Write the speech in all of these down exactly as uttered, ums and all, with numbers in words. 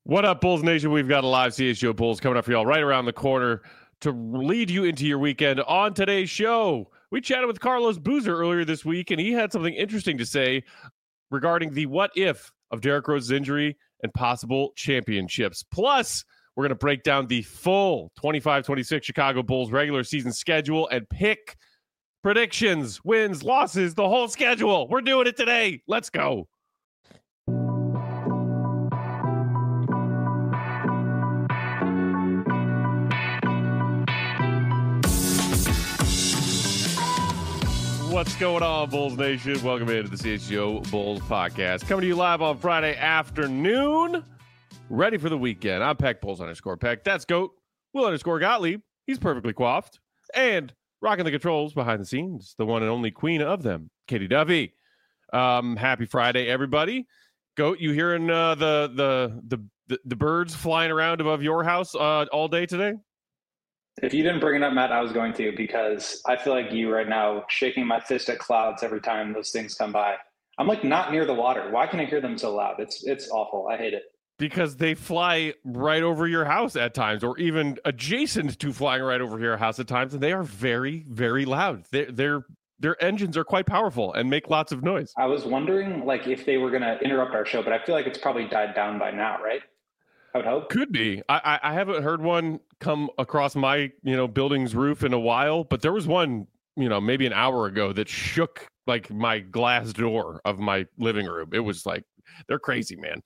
What up, Bulls Nation? We've got a live C H G O Bulls coming up for y'all right around the corner to lead you into your weekend. On today's show, we chatted with Carlos Boozer earlier this week, and he had something interesting to say regarding the what if of Derrick Rose's injury and possible championships. Plus, we're going to break down the full twenty-five twenty-six Chicago Bulls regular season schedule and pick predictions, wins, losses, the whole schedule. We're doing it today. Let's go. What's going on, Bulls Nation? Welcome into the C H G O Bulls podcast. Coming to you live on Friday afternoon. Ready for the weekend. I'm Peck Bulls underscore Peck. That's Goat. Will underscore Gottlieb. He's perfectly coiffed. And rocking the controls behind the scenes, the one and only queen of them, Katie Duffy. Um, happy Friday, everybody. Goat, you hearing uh, the, the the the the birds flying around above your house uh, all day today? If you didn't bring it up, Matt, I was going to, because I feel like you right now shaking my fist at clouds every time those things come by. I'm like not near the water. Why can I hear them so loud? It's it's awful. I hate it. Because they fly right over your house at times, or even adjacent to flying right over your house at times, and they are very, very loud. They're, they're, their engines are quite powerful and make lots of noise. I was wondering like if they were going to interrupt our show, but I feel like it's probably died down by now, right? I would hope. Could be. I, I haven't heard one come across my, you know, building's roof in a while, but there was one, you know, maybe an hour ago that shook like my glass door of my living room. It was like, they're crazy, man.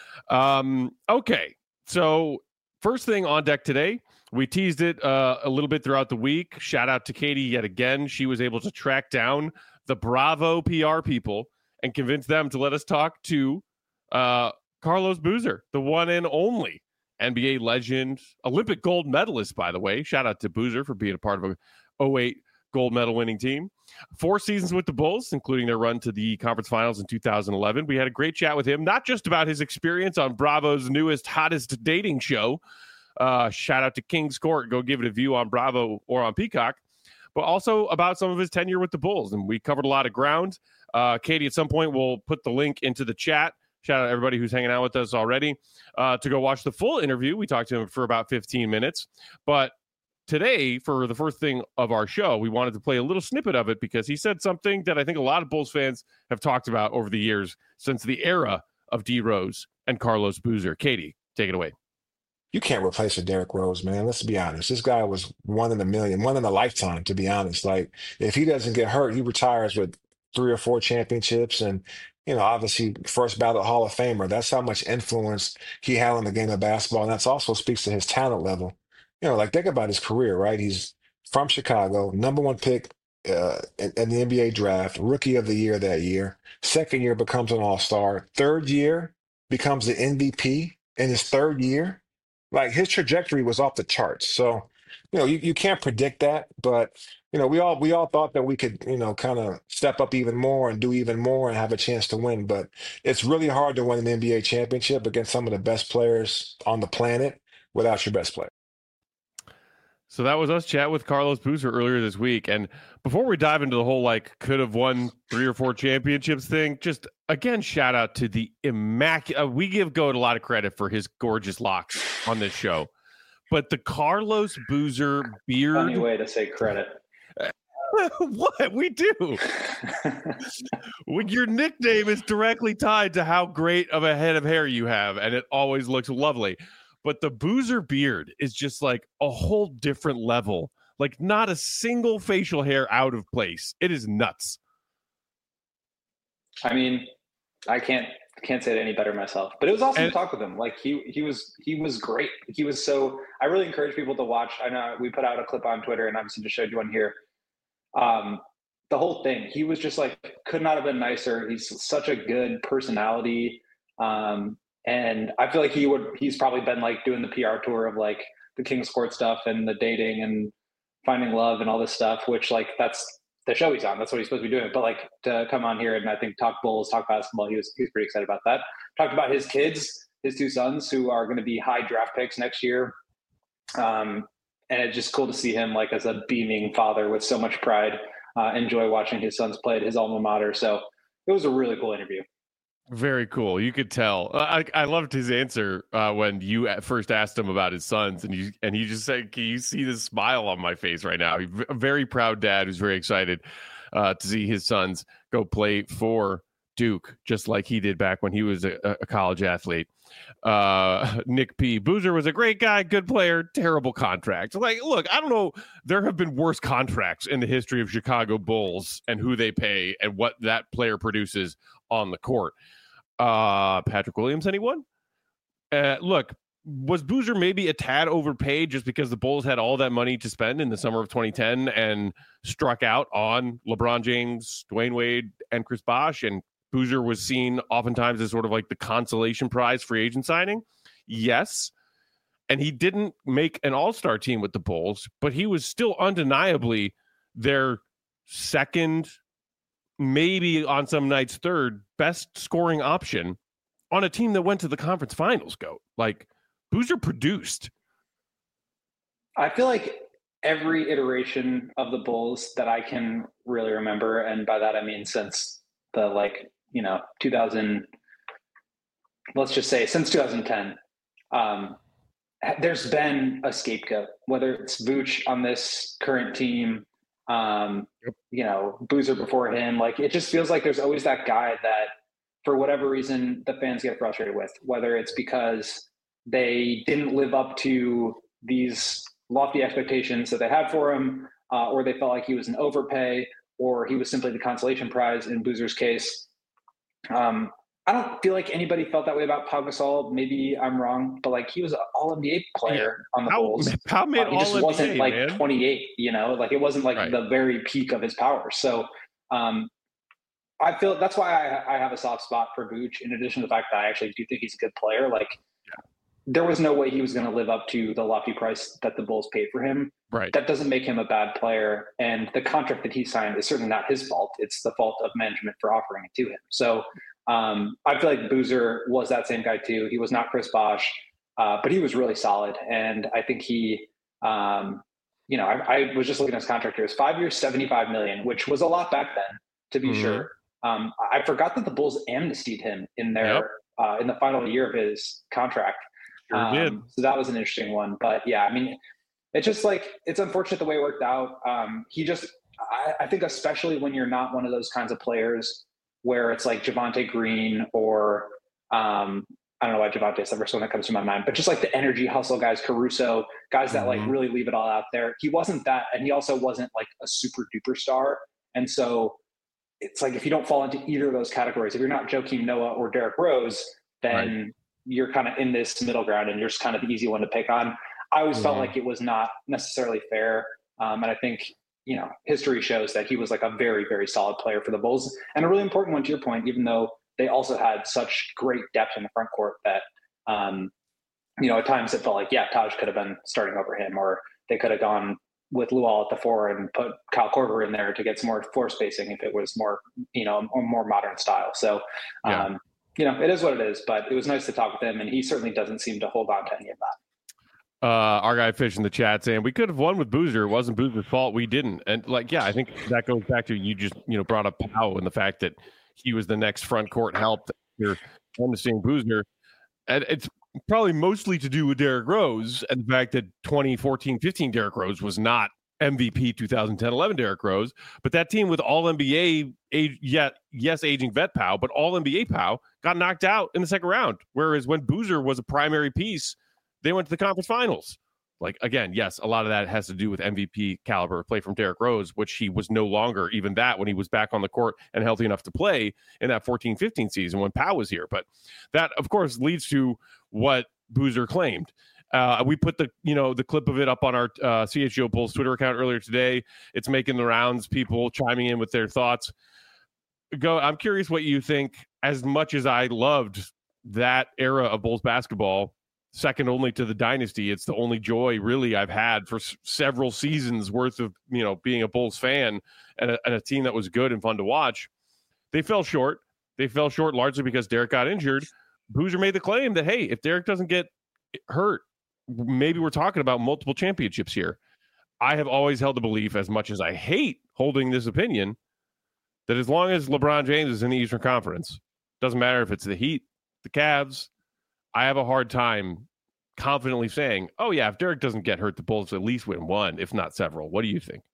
Um, okay. So first thing on deck today, we teased it uh, a little bit throughout the week. Shout out to Katie yet again. She was able to track down the Bravo P R people and convince them to let us talk to uh, Carlos Boozer, the one and only N B A legend, Olympic gold medalist, by the way. Shout out to Boozer for being a part of a oh eight gold medal winning team. Four seasons with the Bulls, including their run to the conference finals in two thousand eleven. We had a great chat with him, not just about his experience on Bravo's newest, hottest dating show. Uh, shout out to King's Court. Go give it a view on Bravo or on Peacock. But also about some of his tenure with the Bulls. And we covered a lot of ground. Uh, Katie, at some point, we'll put the link into the chat. Shout out to everybody who's hanging out with us already uh, to go watch the full interview. We talked to him for about fifteen minutes. But today, for the first thing of our show, we wanted to play a little snippet of it because he said something that I think a lot of Bulls fans have talked about over the years since the era of D. Rose and Carlos Boozer. Katie, take it away. You can't replace a Derrick Rose, man. Let's be honest. This guy was one in a million, one in a lifetime, to be honest. Like, if he doesn't get hurt, he retires with three or four championships and, you know, obviously first ballot Hall of Famer. That's how much influence he had on the game of basketball. And that also speaks to his talent level. You know, like, think about his career, right? He's from Chicago, number one pick uh, in, in the N B A draft, rookie of the year that year. Second year becomes an all-star. Third year becomes the M V P in his third year. Like, his trajectory was off the charts. So, you know, you, you can't predict that, but, you know, we all we all thought that we could, you know, kind of step up even more and do even more and have a chance to win. But it's really hard to win an N B A championship against some of the best players on the planet without your best player. So that was us chat with Carlos Boozer earlier this week. And before we dive into the whole, like, could have won three or four championships thing, just, again, shout out to the immaculate. Uh, we give Goat a lot of credit for his gorgeous locks on this show. But the Carlos Boozer beard. Funny way to say credit. What? We do. When your nickname is directly tied to how great of a head of hair you have, and it always looks lovely. But the Boozer beard is just like a whole different level. Like, not a single facial hair out of place. It is nuts. I mean, I can't can't say it any better myself. But it was awesome and, to talk with him. Like, he he was he was great. He was so. I really encourage people to watch. I know we put out a clip on Twitter, and obviously just showed you one here. Um, the whole thing. He was just like, could not have been nicer. He's such a good personality. Um, And I feel like he would, he's probably been like doing the P R tour of like the King's Court stuff and the dating and finding love and all this stuff, which like, that's the show he's on. That's what he's supposed to be doing. But like, to come on here and I think talk Bulls, talk basketball, he was, he was pretty excited about that. Talked about his kids, his two sons who are going to be high draft picks next year. Um, and it's just cool to see him like as a beaming father with so much pride, uh, enjoy watching his sons play at his alma mater. So it was a really cool interview. Very cool. You could tell. I I loved his answer uh, when you at first asked him about his sons, and you and he just said, "Can you see the smile on my face right now?" He's a very proud dad who's very excited uh, to see his sons go play for Duke, just like he did back when he was a, a college athlete. Uh, Nick P. Boozer was a great guy, good player, terrible contract. Like, look, I don't know. There have been worse contracts in the history of Chicago Bulls and who they pay and what that player produces on the court. Uh, Patrick Williams, anyone? Uh, look, was Boozer maybe a tad overpaid just because the Bulls had all that money to spend in the summer of twenty ten and struck out on LeBron James, Dwayne Wade, and Chris Bosh, and Boozer was seen oftentimes as sort of like the consolation prize free agent signing? Yes. And he didn't make an all-star team with the Bulls, but he was still undeniably their second, maybe on some nights third best scoring option on a team that went to the conference finals. Go like Boozer produced. I feel like every iteration of the Bulls that I can really remember, and by that I mean since the like, you know, two thousand, let's just say since two thousand ten, um, there's been a scapegoat, whether it's Vooch on this current team, um, yep. you know, Boozer before him. Like, it just feels like there's always that guy that for whatever reason the fans get frustrated with, whether it's because they didn't live up to these lofty expectations that they had for him, uh, or they felt like he was an overpay, or he was simply the consolation prize in Boozer's case. Um, I don't feel like anybody felt that way about Pau Gasol. Maybe I'm wrong, but like he was an all N B A player yeah. on the How, Bulls. How made uh, he just all N B A, wasn't like man. twenty-eight, you know, like it wasn't like right. the very peak of his power. So um, I feel that's why I, I have a soft spot for Vooch, in addition to the fact that I actually do think he's a good player. Like yeah. there was no way he was going to live up to the lofty price that the Bulls paid for him. Right. That doesn't make him a bad player. And the contract that he signed is certainly not his fault. It's the fault of management for offering it to him. So um, I feel like Boozer was that same guy too. He was not Chris Bosh, uh, but he was really solid. And I think he, um, you know, I, I was just looking at his contract here. It was five years, seventy-five million, which was a lot back then, to be mm-hmm. sure. Um, I forgot that the Bulls amnestied him in their, yep. uh, in the final year of his contract. Sure um, did. So that was an interesting one. But yeah, I mean, it's just like, it's unfortunate the way it worked out. Um, he just, I, I think especially when you're not one of those kinds of players where it's like Javonte Green or um, I don't know why Javante's the first one that comes to my mind, but just like the energy hustle guys, Caruso, guys that mm-hmm. like really leave it all out there. He wasn't that. And he also wasn't like a super duper star. And so it's like, if you don't fall into either of those categories, if you're not Joakim Noah or Derrick Rose, then right. you're kind of in this middle ground and you're just kind of the easy one to pick on. I always yeah. felt like it was not necessarily fair. Um, and I think, you know, history shows that he was like a very, very solid player for the Bulls, and a really important one to your point, even though they also had such great depth in the front court that, um, you know, at times it felt like, yeah, Taj could have been starting over him, or they could have gone with Luol at the four and put Kyle Korver in there to get some more floor spacing if it was more, you know, a more modern style. So, yeah. um, you know, it is what it is, but it was nice to talk with him, and he certainly doesn't seem to hold on to any of that. Uh, our guy Fish in the chat saying we could have won with Boozer. It wasn't Boozer's fault. We didn't. And like, yeah, I think that goes back to you just, you know, brought up Powell and the fact that he was the next front court help that you're understanding Boozer. And it's probably mostly to do with Derrick Rose and the fact that twenty fourteen fifteen Derrick Rose was not M V P twenty ten eleven Derrick Rose, but that team with all N B A age, yet yes, aging vet Powell, but all N B A Powell got knocked out in the second round. Whereas when Boozer was a primary piece, they went to the conference finals. Like, again, yes, a lot of that has to do with M V P caliber play from Derrick Rose, which he was no longer even that when he was back on the court and healthy enough to play in that fourteen fifteen season when Powell was here. But that, of course, leads to what Boozer claimed. Uh, we put the, you know, the clip of it up on our uh, C H G O Bulls Twitter account earlier today. It's making the rounds, people chiming in with their thoughts. Go. I'm curious what you think. As much as I loved that era of Bulls basketball, second only to the dynasty, it's the only joy really I've had for s- several seasons worth of, you know, being a Bulls fan and a, and a team that was good and fun to watch. They fell short. They fell short largely because Derrick got injured. Boozer made the claim that, hey, if Derrick doesn't get hurt, maybe we're talking about multiple championships here. I have always held the belief, as much as I hate holding this opinion, that as long as LeBron James is in the Eastern Conference, Doesn't matter if it's the Heat, the Cavs. I have a hard time confidently saying, oh, yeah, if Derek doesn't get hurt, the Bulls at least win one, if not several. What do you think?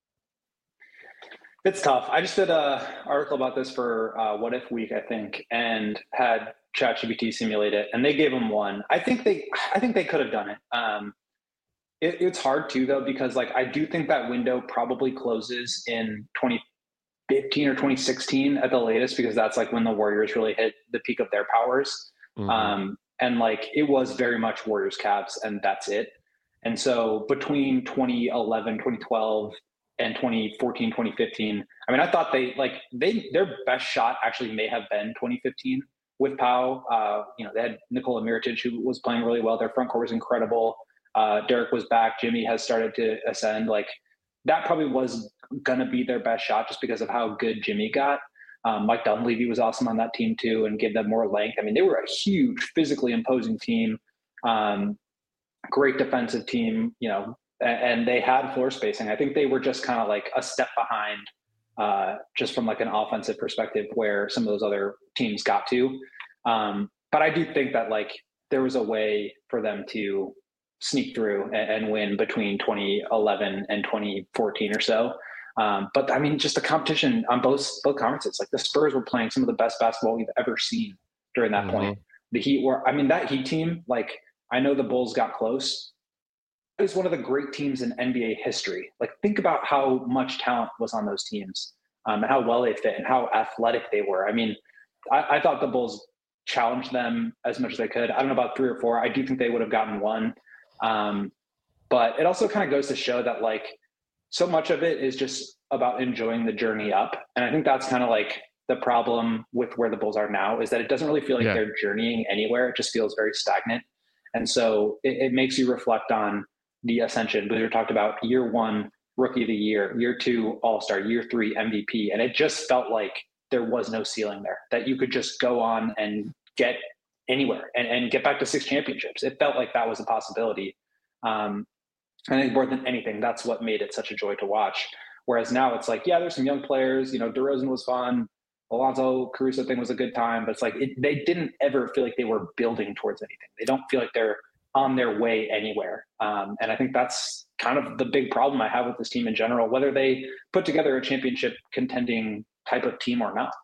It's tough. I just did an article about this for uh, What If Week, I think, and had ChatGPT simulate it, and they gave them one. I think they, I think they could have done it. Um, it. It's hard too, though, because like I do think that window probably closes in twenty fifteen or twenty sixteen at the latest, because that's like when the Warriors really hit the peak of their powers. Mm-hmm. Um, and like it was very much Warriors Cavs, and that's it. And so between twenty eleven, twenty twelve, and twenty fourteen, twenty fifteen, I mean, I thought they like they their best shot actually may have been twenty fifteen with Pau. Uh, you know, they had Nikola Mirotic, who was playing really well. Their front court was incredible. Uh, Derek was back. Jimmy has started to ascend. Like that probably was going to be their best shot just because of how good Jimmy got. Um, Mike Dunleavy was awesome on that team too, and gave them more length. I mean, they were a huge, physically imposing team, um, great defensive team, you know, and, and they had floor spacing. I think they were just kind of like a step behind, uh, just from like an offensive perspective, where some of those other teams got to. Um, but I do think that like there was a way for them to sneak through and, and win between twenty eleven and twenty fourteen or so. Um, but I mean, just the competition on both both conferences, like the Spurs were playing some of the best basketball we've ever seen during that mm-hmm. point. The Heat were, I mean, that Heat team, like I know the Bulls got close. It was one of the great teams in N B A history. Like think about how much talent was on those teams, um, and how well they fit and how athletic they were. I mean, I, I thought the Bulls challenged them as much as they could. I don't know about three or four. I do think they would have gotten one. Um, but it also kind of goes to show that like, so much of it is just about enjoying the journey up. And I think that's kind of like the problem with where the Bulls are now, is that it doesn't really feel like yeah. they're journeying anywhere. It just feels very stagnant. And so it, it makes you reflect on the ascension. Boozer talked about year one, rookie of the year, year two, all-star, year three, M V P. And it just felt like there was no ceiling there, that you could just go on and get anywhere and, and get back to six championships. It felt like that was a possibility. Um, I think more than anything, that's what made it such a joy to watch. Whereas now it's like, yeah, there's some young players, you know, DeRozan was fun. Alonzo Caruso thing was a good time, but it's like, it, they didn't ever feel like they were building towards anything. They don't feel like they're on their way anywhere. Um, and I think that's kind of the big problem I have with this team in general, whether they put together a championship contending type of team or not.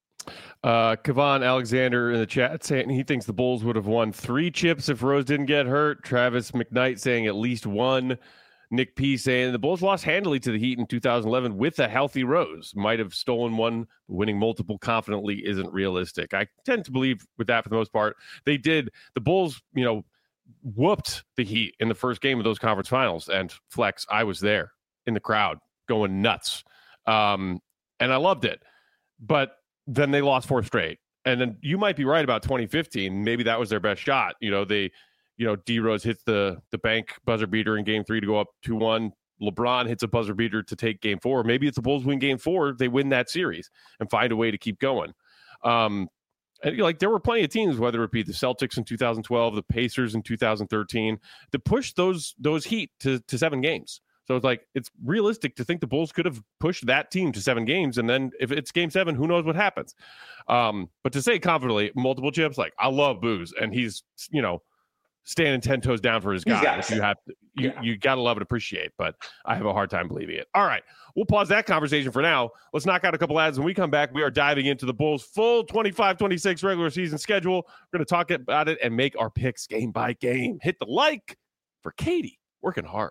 Uh, Kavan Alexander in the chat saying he thinks the Bulls would have won three chips if Rose didn't get hurt. Travis McKnight saying at least one. Nick P saying the Bulls lost handily to the Heat in two thousand eleven with a healthy Rose. Might have stolen one, but winning multiple confidently isn't realistic. I tend to believe with that for the most part. They did. The Bulls, you know, whooped the Heat in the first game of those conference finals. And Flex, I was there in the crowd going nuts. Um, and I loved it. But then they lost four straight. And then you might be right about twenty fifteen. Maybe that was their best shot. You know, they, you know, D Rose hits the the bank buzzer beater in game three to go up two one. LeBron hits a buzzer beater to take game four. Maybe it's the Bulls win game four. They win that series and find a way to keep going. Um, and like there were plenty of teams, whether it be the Celtics in two thousand twelve, the Pacers in two thousand thirteen, to push those those Heat to, to seven games. So it's like, it's realistic to think the Bulls could have pushed that team to seven games. And then if it's game seven, who knows what happens? Um, but to say confidently, multiple chips, like I love Booze and he's, you know, standing ten toes down for his guy. You have to, you, yeah. you got to love and appreciate, but I have a hard time believing it. All right. We'll pause that conversation for now. Let's knock out a couple ads. When we come back, we are diving into the Bulls' full twenty-five twenty-six regular season schedule. We're going to talk about it and make our picks game by game. Hit the like for Katie, working hard.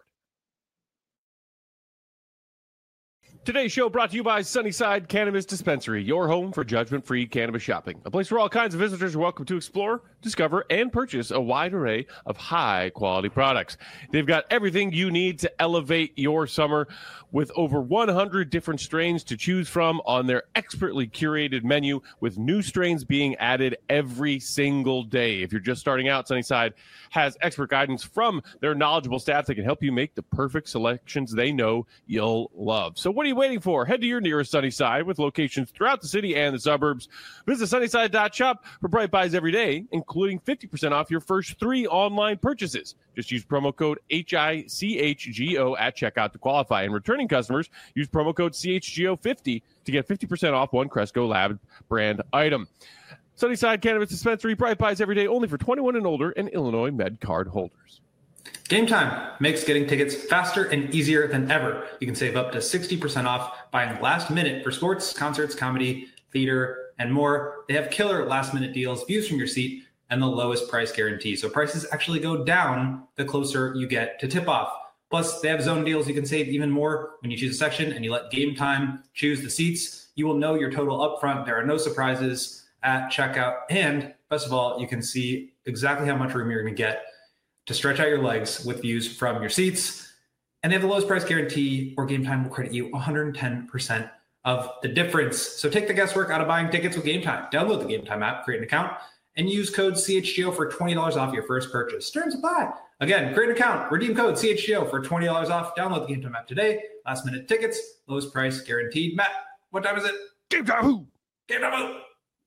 Today's show brought to you by Sunnyside Cannabis Dispensary, your home for judgment-free cannabis shopping. A place where all kinds of visitors are welcome to explore, discover, and purchase a wide array of high-quality products. They've got everything you need to elevate your summer with over one hundred different strains to choose from on their expertly curated menu, with new strains being added every single day. If you're just starting out, Sunnyside has expert guidance from their knowledgeable staff that can help you make the perfect selections they know you'll love. So what are you waiting for? Head to your nearest Sunnyside with locations throughout the city and the suburbs. Visit sunnyside dot shop for bright buys every day, including fifty percent off your first three online purchases. Just use promo code H I C H G O at checkout to qualify. And returning customers, use promo code C H G O fifty to get fifty percent off one Cresco Lab brand item. Sunnyside Cannabis Dispensary, Bright Buys every day, only for twenty-one and older and Illinois Med Card holders. Game Time makes getting tickets faster and easier than ever. You can save up to sixty percent off buying last minute for sports, concerts, comedy, theater, and more. They have killer last minute deals, views from your seat, and the lowest price guarantee. So prices actually go down the closer you get to tip off. Plus, they have zone deals. You can save even more when you choose a section and you let Game Time choose the seats. You will know your total upfront. There are no surprises at checkout. And best of all, you can see exactly how much room you're going to get to stretch out your legs with views from your seats. And they have the lowest price guarantee, or Game Time will credit you one hundred ten percent of the difference. So take the guesswork out of buying tickets with Game Time. Download the Game Time app, create an account, and use code C H G O for twenty dollars off your first purchase. Terms apply. Again, create an account, redeem code C H G O for twenty dollars off. Download the Game Time app today. Last minute tickets, lowest price guaranteed. Matt, what time is it? Game Time Who? Game Time Who?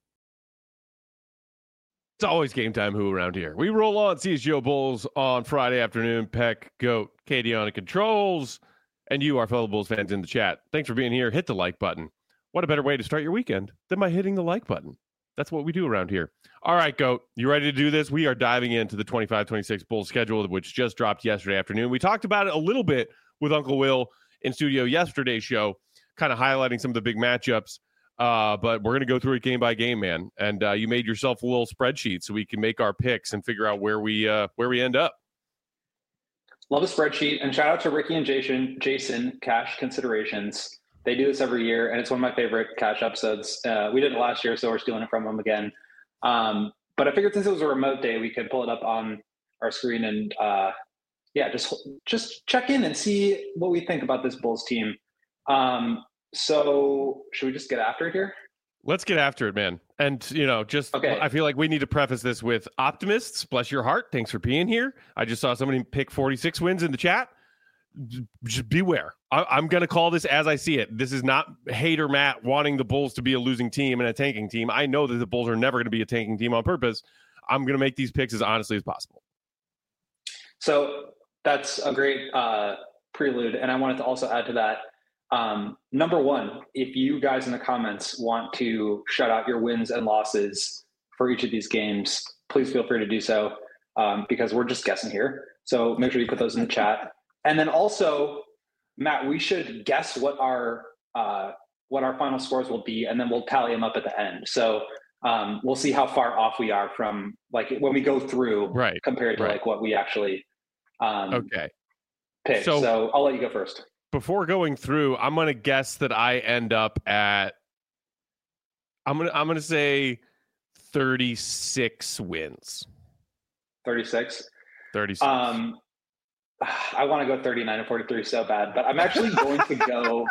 It's always Game Time Who around here. We roll on C H G O Bulls on Friday afternoon. Peck, Goat, Katie on the controls, and you, our fellow Bulls fans in the chat. Thanks for being here. Hit the like button. What a better way to start your weekend than by hitting the like button. That's what we do around here. All right, Goat, you ready to do this? We are diving into the twenty-five twenty-six Bulls schedule, which just dropped yesterday afternoon. We talked about it a little bit with Uncle Will in studio yesterday's show, kind of highlighting some of the big matchups. Uh, but we're going to go through it game by game, man. And uh, you made yourself a little spreadsheet so we can make our picks and figure out where we uh, where we end up. Love a spreadsheet. And shout out to Ricky and Jason, Jason Cash Considerations. They do this every year, and it's one of my favorite Cash episodes. Uh, we did it last year, so we're stealing it from them again. Um, but I figured since it was a remote day, we could pull it up on our screen and, uh, yeah, just just check in and see what we think about this Bulls team. Um, so should we just get after it here? Let's get after it, man. And, you know, just okay. I feel like we need to preface this with optimists. Bless your heart. Thanks for being here. I just saw somebody pick forty-six wins in the chat. Just beware. I, I'm going to call this as I see it. This is not hater Matt wanting the Bulls to be a losing team and a tanking team. I know that the Bulls are never going to be a tanking team on purpose. I'm going to make these picks as honestly as possible. So that's a great uh, prelude. And I wanted to also add to that. Um, number one, if you guys in the comments want to shout out your wins and losses for each of these games, please feel free to do so um, because we're just guessing here. So make sure you put those in the chat. And then also, Matt, we should guess what our uh, what our final scores will be, and then we'll tally them up at the end. So um, we'll see how far off we are from like when we go through, right, compared to right. like what we actually um, okay pick. So, so I'll let you go first. Before going through, I'm going to guess that I end up at, I'm going to, I'm going to say thirty-six wins. thirty-six thirty-six Um, I want to go thirty-nine and forty-three so bad, but I'm actually going to go,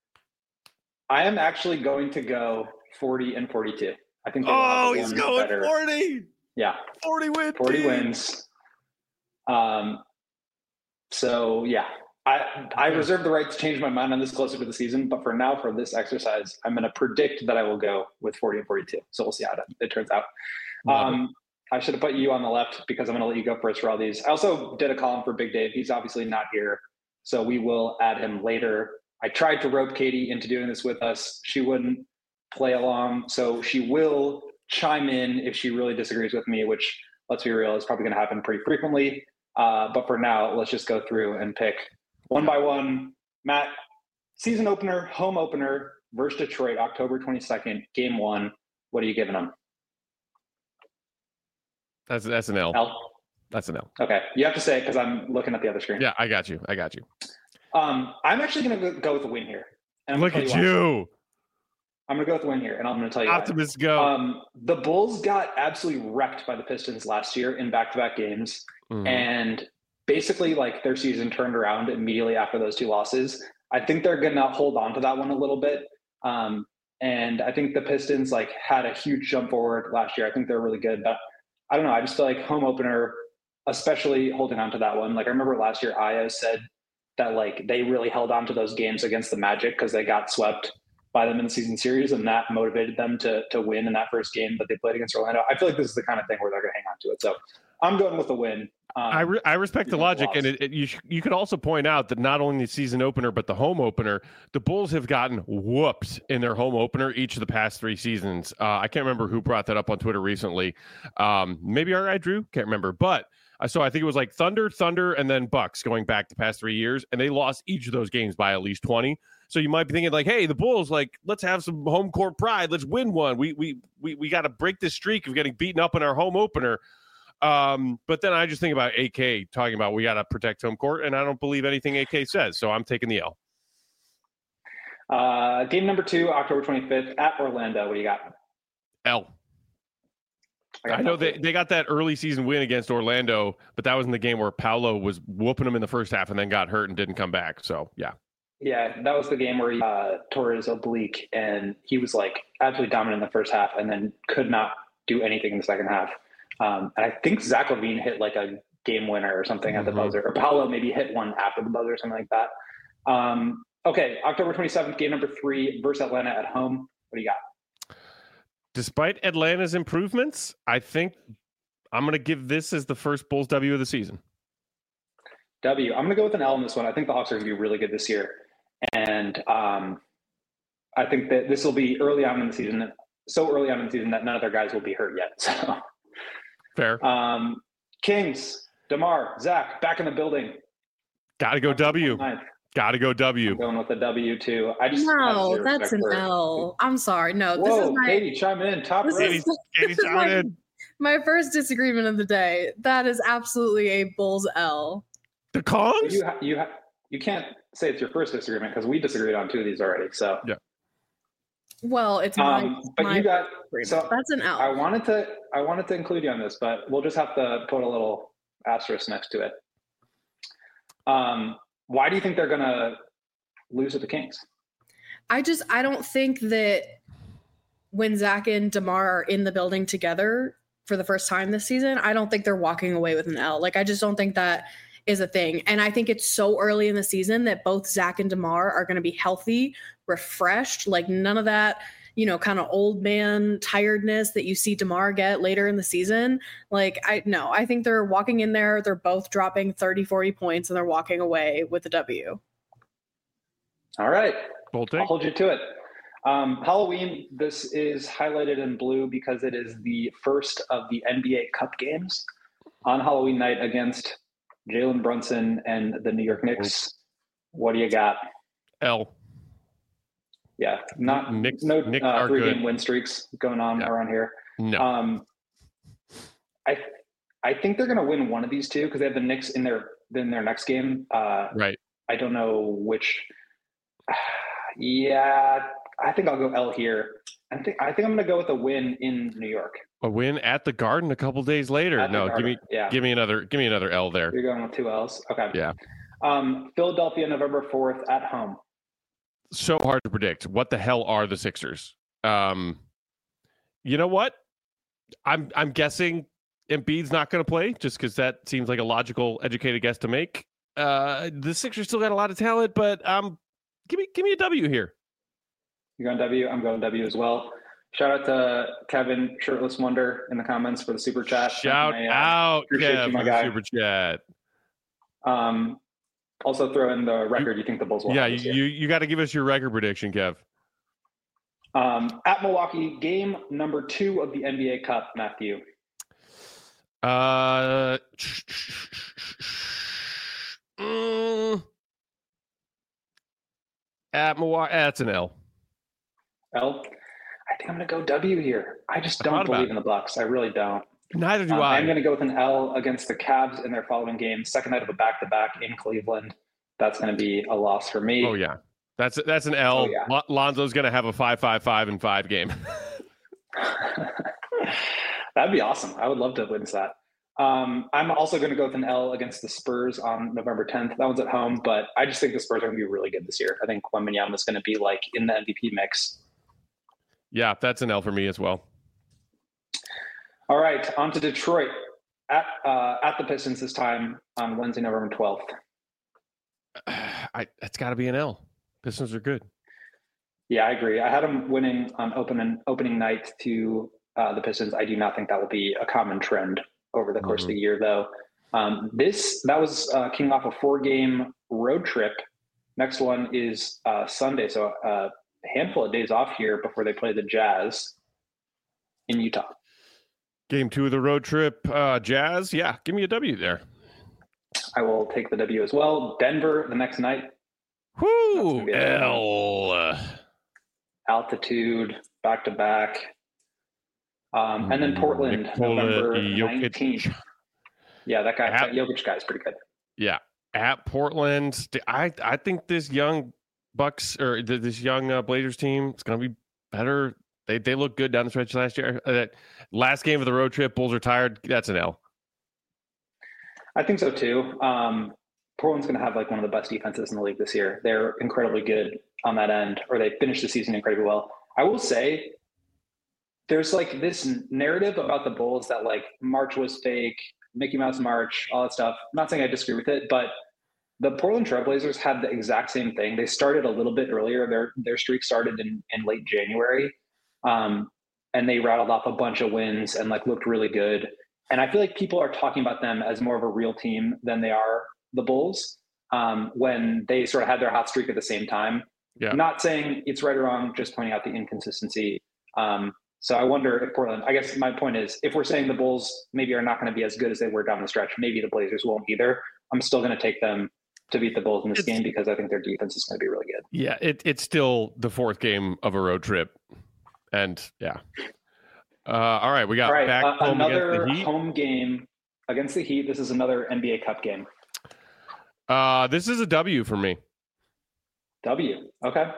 I am actually going to go forty and forty-two. I think. Oh, he's going better. forty. Yeah. forty wins. forty team. Wins. Um, so yeah. I, I reserve the right to change my mind on this closer to the season, but for now, for this exercise, I'm going to predict that I will go with forty and forty-two. So we'll see how it, it turns out. Um, I should have put you on the left because I'm going to let you go first for all these. I also did a column for Big Dave. He's obviously not here, so we will add him later. I tried to rope Katie into doing this with us. She wouldn't play along, so she will chime in if she really disagrees with me, which, let's be real, is probably going to happen pretty frequently. Uh, but for now, let's just go through and pick one by one. Matt, season opener, home opener versus Detroit, October twenty-second, game one. What are you giving them? That's that's an L. L? That's an L. Okay. You have to say it because I'm looking at the other screen. Yeah, I got you. I got you. Um, I'm actually going to go with a win here. And Look at you. you. I'm going to go with the win here, and I'm going to tell you Optimist why. go. Um, the Bulls got absolutely wrecked by the Pistons last year in back-to-back games. Mm-hmm. And basically, like, their season turned around immediately after those two losses. I think they're going to hold on to that one a little bit. Um, and I think the Pistons, like, had a huge jump forward last year. I think they're really good. But I don't know. I just feel like home opener, especially holding on to that one. Like, I remember last year, Io said that, like, they really held on to those games against the Magic because they got swept by them in the season series, and that motivated them to to win in that first game that they played against Orlando. I feel like this is the kind of thing where they're going to hang on to it. So I'm going with a win. Um, I re- I respect the logic, lost. and it, it, you sh- you could also point out that not only the season opener but the home opener, the Bulls have gotten whooped in their home opener each of the past three seasons. Uh, I can't remember who brought that up on Twitter recently. Um, maybe our guy Drew, can't remember, but I saw I think it was like Thunder, Thunder, and then Bucks going back the past three years, and they lost each of those games by at least twenty. So you might be thinking like, hey, the Bulls, like, let's have some home court pride, let's win one. We we we we got to break this streak of getting beaten up in our home opener. Um, but then I just think about A K talking about we got to protect home court, and I don't believe anything A K says, so I'm taking the L. Uh, game number two, October twenty-fifth at Orlando. What do you got? L. I, got I know L they, too. they got that early season win against Orlando, but that was in the game where Paolo was whooping them in the first half and then got hurt and didn't come back. So, yeah. Yeah, that was the game where he uh, tore his oblique, and he was like absolutely dominant in the first half, and then could not do anything in the second half. Um, and I think Zach LaVine hit like a game winner or something mm-hmm. at the buzzer, or Paolo maybe hit one after the buzzer or something like that. Um, okay, October twenty-seventh, game number three versus Atlanta at home. What do you got? Despite Atlanta's improvements, I think I'm going to give this as the first Bulls W of the season. W. I'm going to go with an L in this one. I think the Hawks are going to be really good this year. And um, I think that this will be early on in the season, so early on in the season that none of their guys will be hurt yet. So. Fair. Um, Kings, DeMar, Zach, back in the building. Got to go W. Got to go W. I'm going with the W too. I just no, that's an L. I'm sorry. No, Whoa, this is my. Katie, chime in. Top this right. is, Katie, this is chime my, in. my first disagreement of the day. That is absolutely a Bulls L. The Kongs? You ha- you ha- you can't say it's your first disagreement because we disagreed on two of these already. So yeah. Well, it's my. Um, but my you got so that's an L. I wanted to I wanted to include you on this, but we'll just have to put a little asterisk next to it. Um, why do you think they're gonna lose to the Kings? I just I don't think that when Zach and DeMar are in the building together for the first time this season, I don't think they're walking away with an L. Like I just don't think that is a thing. And I think it's so early in the season that both Zach and DeMar are going to be healthy, refreshed, like none of that, you know, kind of old man tiredness that you see DeMar get later in the season. Like, I no, I think they're walking in there. They're both dropping thirty, forty points and they're walking away with a W. All right. Bold I'll hold you to it. Um, Halloween, this is highlighted in blue because it is the first of the N B A Cup games on Halloween night against Jalen Brunson and the New York Knicks. What do you got? L. Yeah, not Knicks, no Knicks uh, three good. game win streaks going on yeah. around here. No. Um, I I think they're going to win one of these two because they have the Knicks in their in their next game. Uh, right. I don't know which. Yeah, I think I'll go L here. I think I think I'm going to go with a win in New York. A win at the Garden a couple days later. At no, give me yeah. give me another give me another L there. You're going with two L's. Okay. Yeah. Um, Philadelphia, November fourth at home. So hard to predict. What the hell are the Sixers? Um, you know what? I'm I'm guessing Embiid's not going to play just because that seems like a logical, educated guess to make. Uh, the Sixers still got a lot of talent, but um, give me give me a W here. You're going W. I'm going W as well. Shout out to Kevin Shirtless Wonder in the comments for the super chat. Shout my, uh, out, Kev, you, my for the guy. super chat. Um, also throw in the record. You, you think the Bulls will? Yeah, have this you year. you got to give us your record prediction, Kev. Um, at Milwaukee, game number two of the N B A Cup, Matthew. Uh, mm, at Milwaukee, that's an L. L. I think I'm going to go W here. I just don't believe in the Bucks. I really don't. Neither do um, I. I'm going to go with an L against the Cavs in their following game. Second night of a back-to-back in Cleveland. That's going to be a loss for me. Oh yeah, that's that's an L. Oh, yeah. Lonzo's going to have a five five five and five game. That'd be awesome. I would love to witness that. Um, I'm also going to go with an L against the Spurs on November tenth. That one's at home, but I just think the Spurs are going to be really good this year. I think Wembanyama is going to be like in the M V P mix. Yeah, that's an L for me as well. All right, on to Detroit at uh, at the Pistons this time on Wednesday, November twelfth. I it's got to be an L. Pistons are good. Yeah, I agree. I had them winning on opening opening night to uh, the Pistons. I do not think that will be a common trend over the course mm-hmm. of the year, though. Um, this that was uh, kicking off a four-game road trip. Next one is uh, Sunday, so uh, a handful of days off here before they play the Jazz in Utah. Game two of the road trip, uh, Jazz. Yeah, give me a W there. I will take the W as well. Denver the next night. Whoo, L. Altitude, back to back. Um, and then Portland, Nikola November Jokic. nineteenth. Yeah, that guy, At, that Jokic guy is pretty good. Yeah, at Portland. I I think this young Bucks or th- this young uh, Blazers team is going to be better. They they look good down the stretch last year. Uh, that last game of the road trip, Bulls are tired. That's an L. I think so too. Um, Portland's going to have like one of the best defenses in the league this year. They're incredibly good on that end, or they finished the season incredibly well. I will say there's like this narrative about the Bulls that like March was fake, Mickey Mouse March, all that stuff. I'm not saying I disagree with it, but the Portland Trailblazers had the exact same thing. They started a little bit earlier. Their their streak started in, in late January, um, and they rattled off a bunch of wins and like looked really good. And I feel like people are talking about them as more of a real team than they are the Bulls um, when they sort of had their hot streak at the same time. Yeah. Not saying it's right or wrong, just pointing out the inconsistency. Um, so I wonder if Portland, I guess my point is, if we're saying the Bulls maybe are not going to be as good as they were down the stretch, maybe the Blazers won't either. I'm still going to take them to beat the Bulls in this it's, game because I think their defense is going to be really good. Yeah, it, it's still the fourth game of a road trip. And yeah. Uh, all right, we got all right, back uh, home another against the Heat. home game against the Heat. This is another N B A Cup game. Uh, this is a W for me. W. Okay.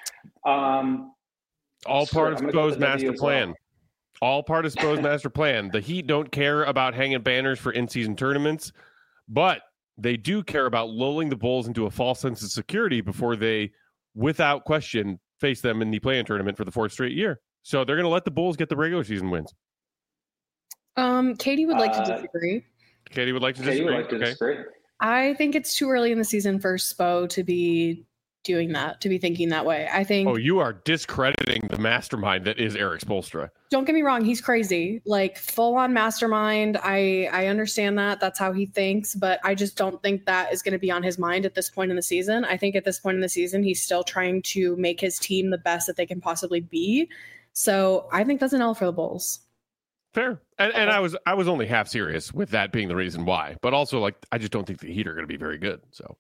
Um, All sure, part of Spo's master plan. Well. All part of Spo's master plan. The Heat don't care about hanging banners for in-season tournaments, but they do care about lulling the Bulls into a false sense of security before they, without question, face them in the play-in tournament for the fourth straight year. So they're going to let the Bulls get the regular season wins. Um, Katie would like uh, to disagree. Katie would like to Katie disagree. would like to okay. disagree. I think it's too early in the season for Spo to be doing that, to be thinking that way. I think. Oh, you are discrediting the mastermind that is Eric Spoelstra. Don't get me wrong; he's crazy, like full on mastermind. I I understand that. That's how he thinks, but I just don't think that is going to be on his mind at this point in the season. I think at this point in the season, he's still trying to make his team the best that they can possibly be. So I think that's an L for the Bulls. Fair. And, and I was I was only half serious with that being the reason why. But also, like, I just don't think the Heat are going to be very good. So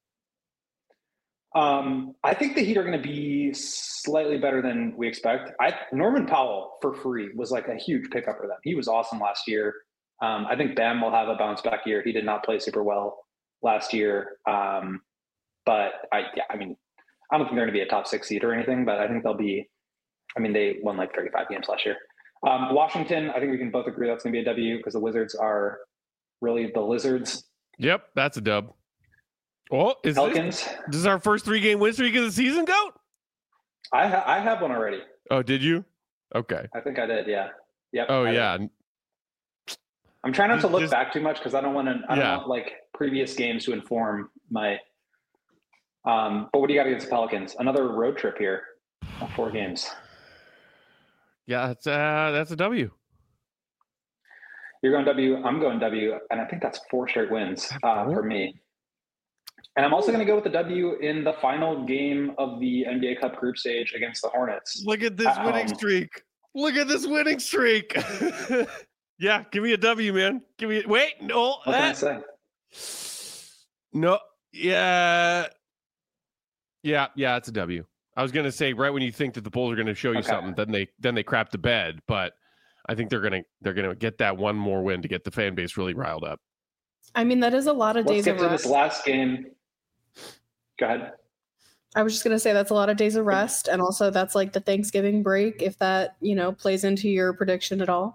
um, I think the Heat are going to be slightly better than we expect. I Norman Powell for free was like a huge pickup for them. He was awesome last year. Um, I think Bam will have a bounce back year. He did not play super well last year. Um, but I yeah, I mean, I don't think they're going to be a top six seed or anything, but I think they'll be. I mean, they won like thirty-five games last year. Um, Washington, I think we can both agree that's going to be a W because the Wizards are really the lizards. Yep, that's a dub. Oh, is Pelicans. This, this is our first three-game win streak of the season, Goat? I ha- I have one already. Oh, did you? Okay. I think I did. Yeah. Yep. Oh, I yeah. Did. I'm trying not Just, to look just, back too much because I don't want to. I don't yeah. want like previous games to inform my. Um, but what do you got against the Pelicans? Another road trip here. Four games. Yeah, that's uh, that's a W. You're going W. I'm going W, and I think that's four straight wins uh, for me. And I'm also going to go with the W in the final game of the N B A Cup group stage against the Hornets. Look at this at winning home. streak. Look at this winning streak. Yeah, give me a W, man. Give me. Wait, no. What that, can I say? No. Yeah. Yeah. Yeah. It's a W. I was gonna say right when you think that the Bulls are gonna show you okay. something, then they then they crap the bed. But I think they're gonna they're gonna get that one more win to get the fan base really riled up. I mean, that is a lot of Let's days get of to rest. this last game. Go ahead. I was just gonna say that's a lot of days of rest, and also that's like the Thanksgiving break. If that you know plays into your prediction at all.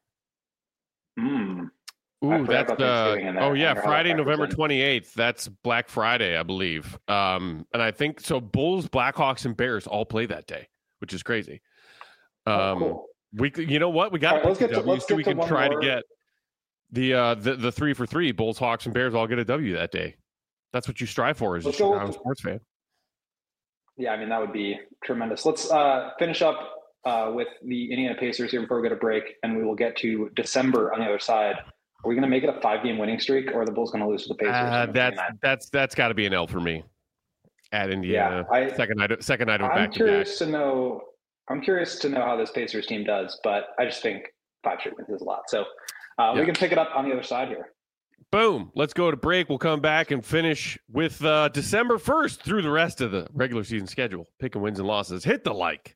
Mm. Ooh, that's uh, oh yeah, Friday, November twenty-eighth. twenty-eighth. That's Black Friday, I believe. Um, and I think so. Bulls, Blackhawks, and Bears all play that day, which is crazy. Um, oh, cool. we, you know what? We got right, let's get to, W, let's so get we to can one try more. to get the uh the, the three for three. Bulls, Hawks, and Bears all get a W that day. That's what you strive for as a Chicago sports fan. Yeah, I mean that would be tremendous. Let's uh, finish up uh, with the Indiana Pacers here before we go to break, and we will get to December on the other side. Are we going to make it a five-game winning streak, or are the Bulls going to lose to the Pacers? Uh, that's that's that's got to be an L for me at Indiana. Yeah, I, second night, second night of I'm back to curious back. to know. I'm curious to know how this Pacers team does, but I just think five straight wins is a lot. So uh, yeah. we can pick it up on the other side here. Boom. Let's go to break. We'll come back and finish with uh, December first through the rest of the regular season schedule. Picking wins and losses. Hit the like.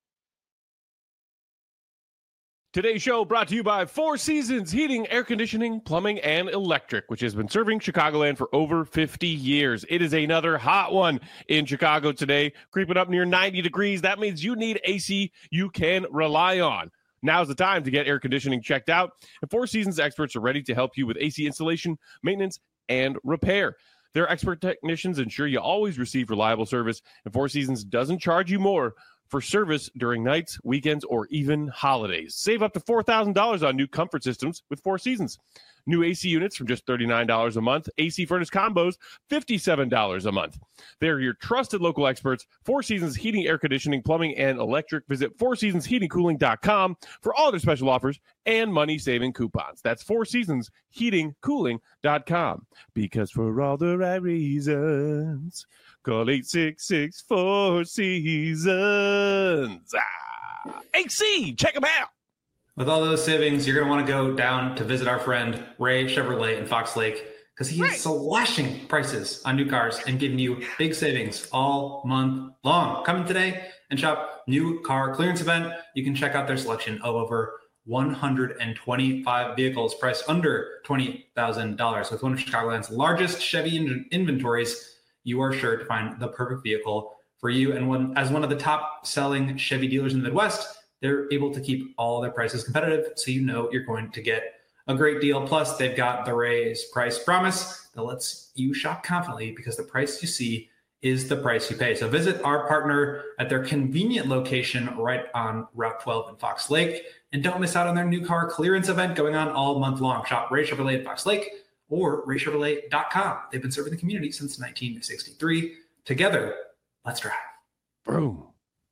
Today's show brought to you by Four Seasons Heating, Air Conditioning, Plumbing, and Electric, which has been serving Chicagoland for over fifty years. It is another hot one in Chicago today, creeping up near ninety degrees. That means you need A C you can rely on. Now's the time to get air conditioning checked out, and Four Seasons experts are ready to help you with A C installation, maintenance, and repair. Their expert technicians ensure you always receive reliable service, and Four Seasons doesn't charge you more for service during nights, weekends, or even holidays. Save up to four thousand dollars on new comfort systems with Four Seasons. New A C units from just thirty-nine dollars a month. A C furnace combos, fifty-seven dollars a month. They're your trusted local experts. Four Seasons Heating, Air Conditioning, Plumbing, and Electric. Visit four seasons heating cooling dot com for all their special offers and money-saving coupons. That's four seasons heating cooling dot com. Because for all the right reasons, call eight six six four seasons. Ah, A C, check them out. With all those savings, you're going to want to go down to visit our friend Ray Chevrolet in Fox Lake, because he is slashing prices on new cars and giving you big savings all month long. Coming today and shop new car clearance event. You can check out their selection of over one hundred twenty-five vehicles priced under twenty thousand dollars. With one of Chicagoland's largest Chevy in- inventories, you are sure to find the perfect vehicle for you. And one, as one of the top selling Chevy dealers in the Midwest, they're able to keep all their prices competitive, so you know you're going to get a great deal. Plus, they've got the Ray's Price Promise that lets you shop confidently, because the price you see is the price you pay. So visit our partner at their convenient location right on Route twelve in Fox Lake, and don't miss out on their new car clearance event going on all month long. Shop Ray Chevrolet in Fox Lake or ray chevrolet dot com. They've been serving the community since nineteen sixty-three. Together, let's drive. Boom.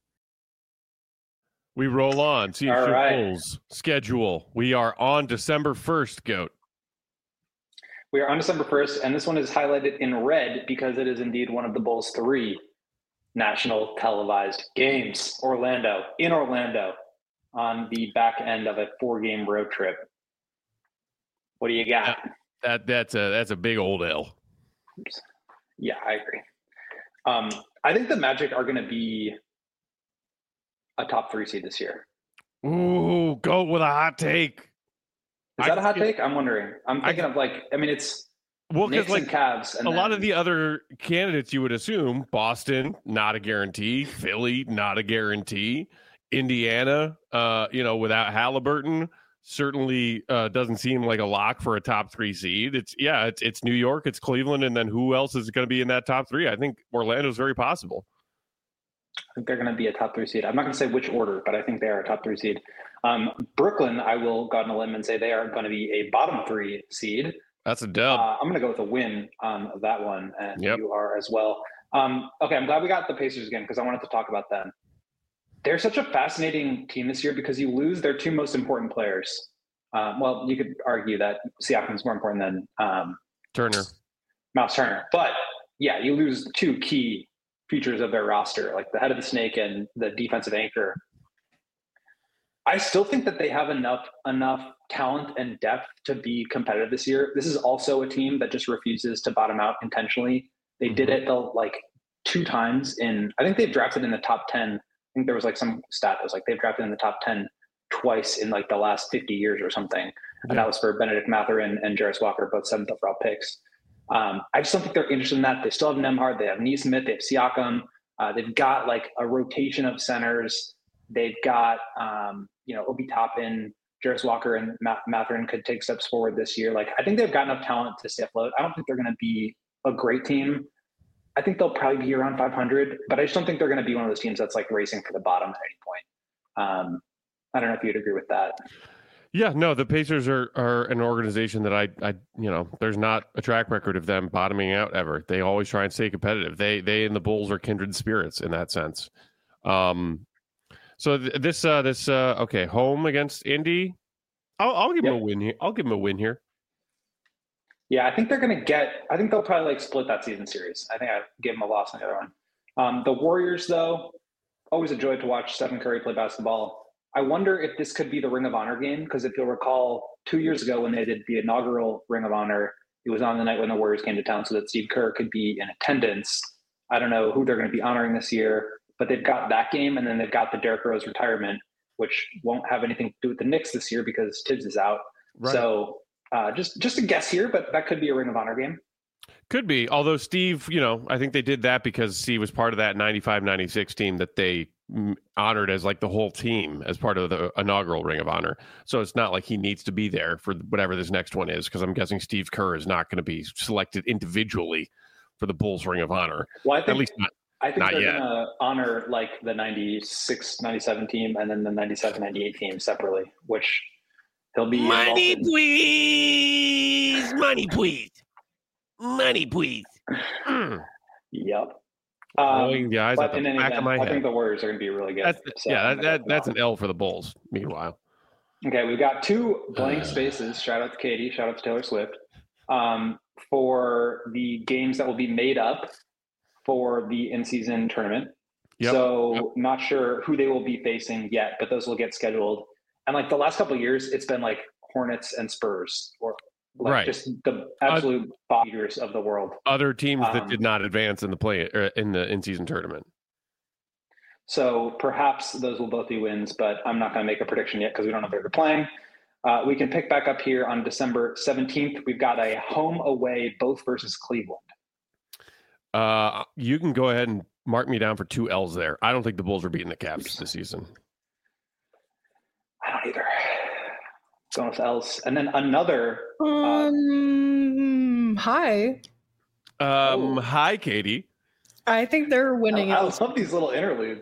We roll on. See your right. Bulls schedule. We are on December first, Goat. We are on December first, and this one is highlighted in red because it is indeed one of the Bulls' three national televised games. Orlando, in Orlando, on the back end of a four-game road trip. What do you got? That, that that's a that's a big old L. Oops. Yeah, I agree. Um, I think the Magic are going to be a top three seed this year. Ooh, go with a hot take. Is that I, a hot take? I'm wondering. I'm thinking I, of like, I mean, it's well, Knicks like and Cavs. And a then, lot of the other candidates you would assume, Boston, not a guarantee. Philly, not a guarantee. Indiana, uh, you know, without Halliburton, certainly uh, doesn't seem like a lock for a top three seed. It's yeah, it's it's New York, it's Cleveland, and then who else is going to be in that top three? I think Orlando's very possible. I think they're going to be a top three seed. I'm not going to say which order, but I think they are a top three seed. Um, Brooklyn, I will go on a limb and say they are going to be a bottom three seed. That's a dub. Uh, I'm going to go with a win on that one, and yep. you are as well. Um, okay, I'm glad we got the Pacers again, because I wanted to talk about them. They're such a fascinating team this year because you lose their two most important players. Um, well, you could argue that Siakam is more important than um, Turner, Miles Turner, but yeah, you lose two key features of their roster, like the head of the snake and the defensive anchor. I still think that they have enough enough talent and depth to be competitive this year. This is also a team that just refuses to bottom out intentionally. They mm-hmm. did it the, like two times in, I think they've drafted in the top ten. I think there was like some stat that was like they've drafted in the top ten twice in like the last fifty years or something. Mm-hmm. And that was for Benedict Mathurin and Jarris Walker, both seventh overall picks. Um, I just don't think they're interested in that. They still have Nembhard, they have Nesmith, they have Siakam. Uh, they've got like a rotation of centers. They've got, um, you know, Obi Toppin, Jarris Walker, and Matt- Mathurin could take steps forward this year. Like, I think they've got enough talent to stay afloat. I don't think they're going to be a great team. I think they'll probably be around five hundred, but I just don't think they're going to be one of those teams that's like racing for the bottom at any point. Um, I don't know if you'd agree with that. Yeah, no, the Pacers are, are an organization that I, I, you know, there's not a track record of them bottoming out ever. They always try and stay competitive. They, they and the Bulls are kindred spirits in that sense. Um, so th- this, uh, this, uh, okay, home against Indy. I'll, I'll give yep. them a win here. I'll give them a win here. Yeah, I think they're going to get, I think they'll probably like split that season series. I think I gave them a loss on the other one. Um, the Warriors, though, always a joy to watch Stephen Curry play basketball. I wonder if this could be the Ring of Honor game, because if you'll recall, two years ago when they did the inaugural Ring of Honor, it was on the night when the Warriors came to town so that Steve Kerr could be in attendance. I don't know who they're going to be honoring this year, but they've got that game, and then they've got the Derrick Rose retirement, which won't have anything to do with the Knicks this year because Tibbs is out. Right. So uh, just just a guess here, but that could be a Ring of Honor game. Could be. Although Steve, you know, I think they did that because Steve was part of that ninety-five ninety-six team that they honored as like the whole team as part of the inaugural Ring of Honor. So it's not like he needs to be there for whatever this next one is, because I'm guessing Steve Kerr is not going to be selected individually for the Bulls Ring of Honor. Well, I think, at least not, I think not they're yet. going to honor like the ninety-six ninety-seven team and then the ninety-seven ninety-eight team separately, which he'll be money, in. please, money, please, money, please. Mm. Yep. Um, Rolling the eyes but at the in any back event, of my I head. think the Warriors are going to be really good. That's, so yeah, that, that, that's an L for the Bulls, meanwhile. Okay, we've got two blank spaces. Shout out to Katie. Shout out to Taylor Swift. Um, for the games that will be made up for the in-season tournament. Yep. So yep. not sure who they will be facing yet, but those will get scheduled. And like the last couple of years, it's been like Hornets and Spurs, or like right. just the absolute uh, beaters of the world. Other teams um, that did not advance in the play or in the in-season tournament. So perhaps those will both be wins, but I'm not going to make a prediction yet because we don't know if they're playing. Uh, we can pick back up here on December seventeenth. We've got a home away, both versus Cleveland. Uh, you can go ahead and mark me down for two L's there. I don't think the Bulls are beating the Cavs this season. I don't either. Going with L's. And then another. Um, uh, hi. Um, oh. Hi, Katie. I think they're winning. I, I love these little interludes.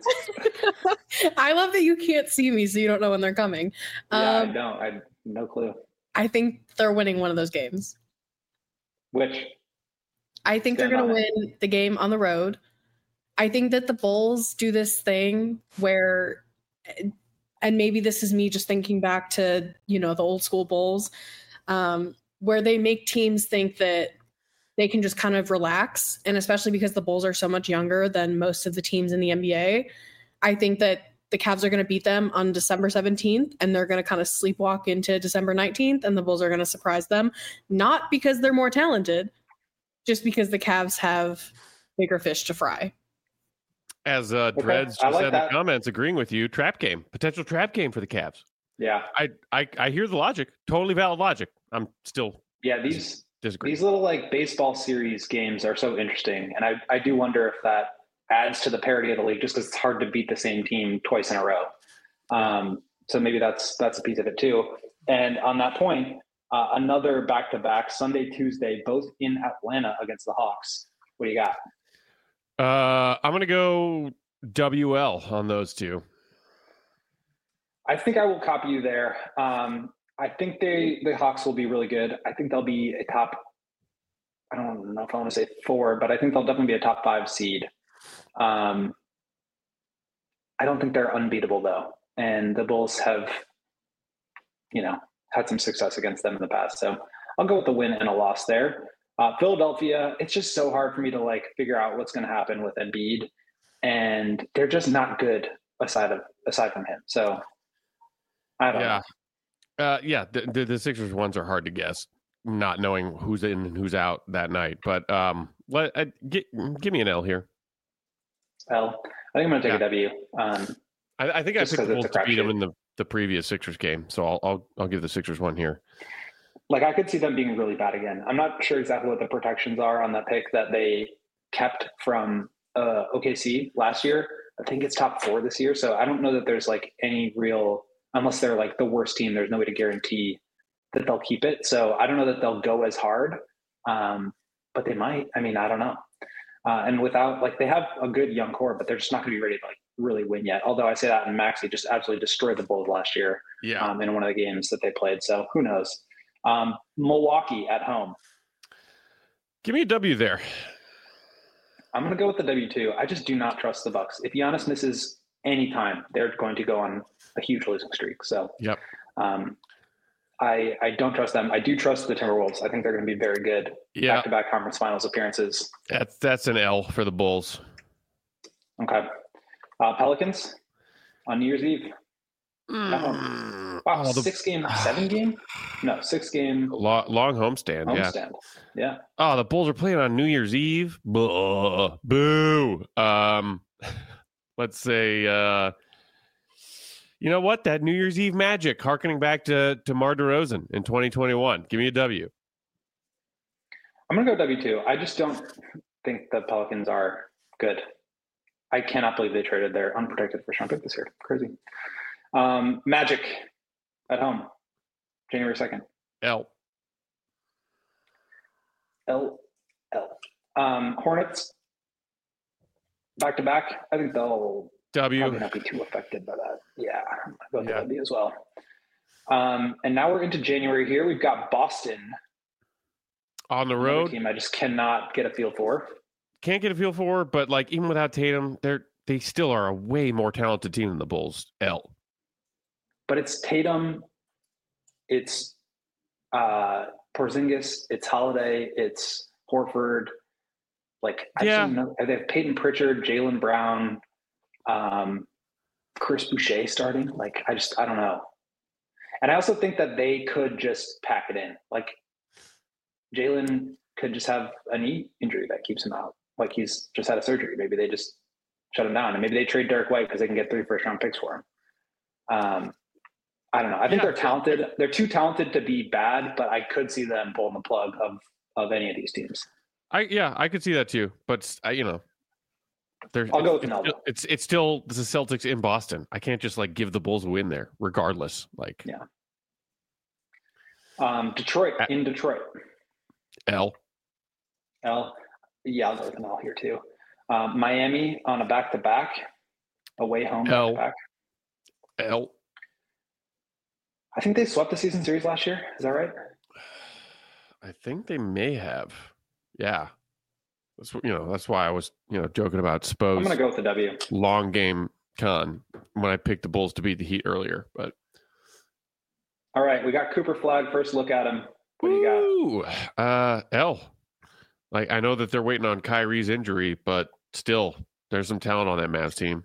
I love that you can't see me, so you don't know when they're coming. Yeah, um, I don't. I have no clue. I think they're winning one of those games. Which? I think they're going to win the game on the road. I think that the Bulls do this thing where, and maybe this is me just thinking back to, you know, the old school Bulls, um, where they make teams think that they can just kind of relax. And especially because the Bulls are so much younger than most of the teams in the N B A, I think that the Cavs are going to beat them on December seventeenth, and they're going to kind of sleepwalk into December nineteenth, and the Bulls are going to surprise them. Not because they're more talented, just because the Cavs have bigger fish to fry. As uh, Dreads okay. just like said that. in the comments, agreeing with you, trap game, potential trap game for the Cavs. Yeah. I, I, I hear the logic, totally valid logic. I'm still yeah these disagree. These little like baseball series games are so interesting, and I, I do wonder if that adds to the parity of the league, just because it's hard to beat the same team twice in a row. Um, so maybe that's that's a piece of it too. And on that point, uh, another back-to-back Sunday, Tuesday, both in Atlanta against the Hawks. What do you got? Uh, I'm gonna go W L on those two. I think I will copy you there. Um, I think they the Hawks will be really good. I think they'll be a top. I don't know if I want to say four, but I think they'll definitely be a top five seed. Um, I don't think they're unbeatable though, and the Bulls have, you know, had some success against them in the past. So I'll go with the win and a loss there. Uh, Philadelphia, it's just so hard for me to like figure out what's going to happen with Embiid, and they're just not good aside of aside from him. So I don't yeah. know. Uh, yeah, the, the the Sixers ones are hard to guess, not knowing who's in and who's out that night. But um, let uh, get, give me an L here. L. I think I'm going to take yeah. a W. Um, I, I think I just picked 'cause the it's Bulls a to beat them crapshoot. in the, the previous Sixers game, so I'll I'll I'll give the Sixers one here. Like I could see them being really bad again. I'm not sure exactly what the protections are on that pick that they kept from uh, O K C last year. I think it's top four this year. So I don't know that there's like any real, unless they're like the worst team, there's no way to guarantee that they'll keep it. So I don't know that they'll go as hard, um, but they might. I mean, I don't know. Uh, and without like, they have a good young core, but they're just not going to be ready to like really win yet. Although I say that, and Maxey just absolutely destroyed the Bulls last year Yeah. um, in one of the games that they played. So who knows? Um, Milwaukee at home. Give me a W there. I'm going to go with the W two. I just do not trust the Bucks. If Giannis misses any time, they're going to go on a huge losing streak. So, Yep. um, I, I don't trust them. I do trust the Timberwolves. I think they're going to be very good. Yeah, Back-to-back conference finals appearances. that's that's an L for the Bulls. Okay. Uh, Pelicans on New Year's Eve. Mm. Wow, Oh, the- six game, seven game? No, six game Long, long homestand, yeah. homestand. Yeah. Oh, the Bulls are playing on New Year's Eve. Buh, boo. Um, let's say, uh, you know what? That New Year's Eve magic, harkening back to to Mar DeRozan in twenty twenty-one. Give me a W. I'm going to go W two. I just don't think the Pelicans are good. I cannot believe they traded their unprotected first round pick this year. Crazy. Um, Magic at home, January second. L. L. L. Um, Hornets back to back. I think they'll W. probably not be too affected by that. Yeah, I'm going to go Yeah. W as well. Um, and now we're into January here. We've got Boston On the another road. team I just cannot get a feel for. Can't get a feel for, but like even without Tatum, they're they still are a way more talented team than the Bulls. L. But it's Tatum, it's uh, Porzingis, it's Holiday, it's Horford. Like, I Yeah. don't know. They have Peyton Pritchard, Jaylen Brown, um, Chris Boucher starting. Like, I just, I don't know. And I also think that they could just pack it in. Like, Jaylen could just have a knee injury that keeps him out. Like, he's just had a surgery. Maybe they just shut him down. And maybe they trade Derek White because they can get three first round picks for him. Um, I don't know. I think Yeah. they're talented. They're too talented to be bad, but I could see them pulling the plug of of any of these teams. I yeah, I could see that too. But I, you know, there's I'll go with it's, an L. it's, it's it's still the Celtics in Boston. I can't just like give the Bulls a win there, regardless. Like Yeah. Um, Detroit in Detroit. L. L. Yeah, I'll go with an L here too. Um, Miami on a back to back, away home L. back to back. L. I think they swept the season series last year. Is that right? I think they may have. Yeah. That's what you know. That's why I was you know joking about Spo's I'm gonna go with the W. long game con when I picked the Bulls to beat the Heat earlier. But All right, we got Cooper Flag. First look at him. What do you got? Ooh, uh, L. Like I know that they're waiting on Kyrie's injury, but still, there's some talent on that Mavs team.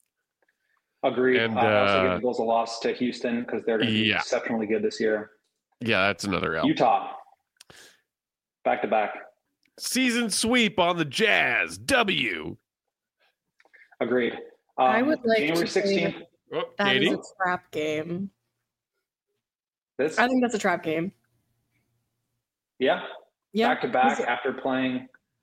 Agreed. And, uh, I also give uh, the Bulls a loss to Houston because they're going to be yeah. exceptionally good this year. Yeah, that's another L. Utah, back to back. Season sweep on the Jazz. W. Agreed. Um, I would like January to say sixteenth. Oh, That is Katie. a trap game. This, I think that's a trap game. yeah, Yeah. back to back Is it- after playing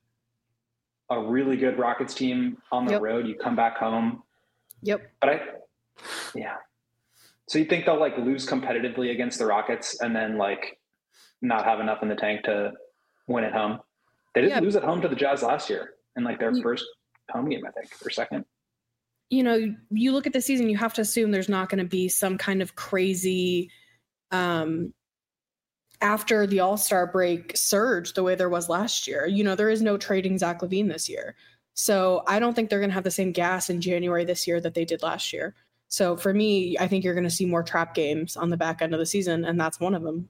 a really good Rockets team on the Yep. road. You come back home, Yep. but I, yeah. So you think they'll like lose competitively against the Rockets and then like not have enough in the tank to win at home? They didn't Yeah. lose at home to the Jazz last year in like their You- first home game, I think, or second. You know, you look at the season, you have to assume there's not going to be some kind of crazy um after the All-Star break surge the way there was last year. You know, there is no trading Zach LaVine this year. So I don't think they're going to have the same gas in January this year that they did last year. So for me, I think you're going to see more trap games on the back end of the season, and that's one of them.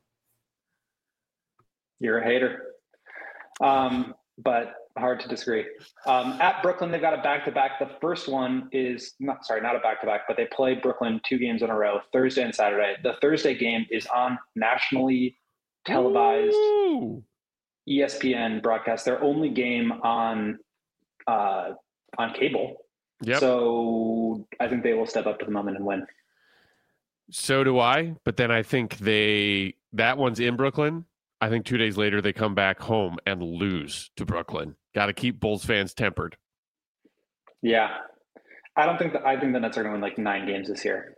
You're a hater. Um, but hard to disagree. Um, at Brooklyn, they've got a back-to-back. The first one is not sorry, not a back-to-back, but they play Brooklyn two games in a row, Thursday and Saturday. The Thursday game is on nationally televised Ooh. E S P N broadcast. Their only game on uh, on cable. Yep. So, So I think they will step up to the moment and win. so do I. But then I think they that one's in Brooklyn. I think two days later they come back home and lose to Brooklyn. Got to keep Bulls fans tempered. Yeah, I don't think that. I think the Nets are going to win like nine games this year.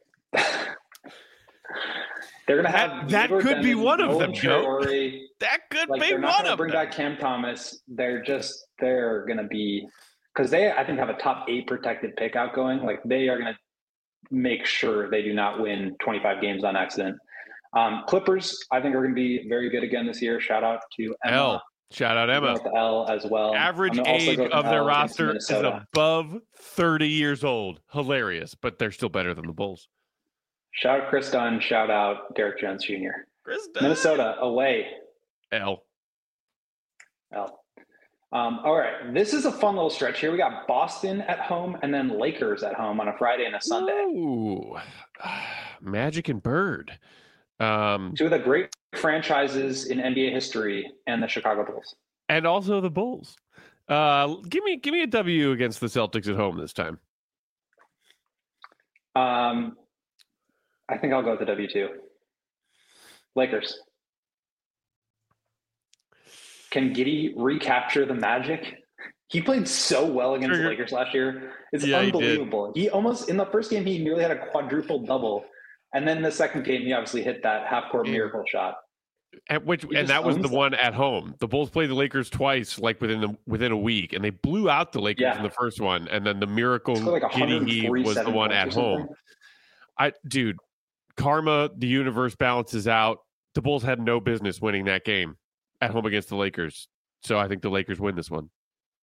They're going to have That- that Igor could be Bennett, one of Nolan them, Joe. Traore. That could Like be they're not one going to of bring them. back Cam Thomas. They're just they're going to be because they I think have a top eight protected pick outgoing. Like they are going to make sure they do not win twenty-five games on accident. Um, Clippers I think are going to be very good again this year. Shout out to Emma. L. Shout out I'm going Emma. with the L as well. Average I'm gonna also age go with of an their L against roster is Minnesota. above thirty years old. Hilarious, but they're still better than the Bulls. Shout out Chris Dunn. Shout out Derek Jones Junior Krista. Minnesota away. L. L. Um, all right. This is a fun little stretch here. We got Boston at home and then Lakers at home on a Friday and a Sunday. Ooh. Magic and Bird. Um, Two of the great franchises in N B A history and the Chicago Bulls. And also the Bulls. Uh, give me give me a W against the Celtics at home this time. Um, I think I'll go with the W two. Lakers. Can Giddey recapture the magic? He played so well against Trigger. the Lakers last year. It's Yeah, he did. unbelievable. He, he almost, in the first game, he nearly had a quadruple double. And then the second game, he obviously hit that half-court Yeah. miracle shot. And which He and just that was owns the them. one at home. The Bulls played the Lakers twice, like within the within a week, and they blew out the Lakers Yeah. in the first one, and then the miracle Scored like Giddey heave was the one hundred forty-seven one points at or something. home. I dude, karma, the universe balances out. The Bulls had no business winning that game at home against the Lakers. So I think the Lakers win this one.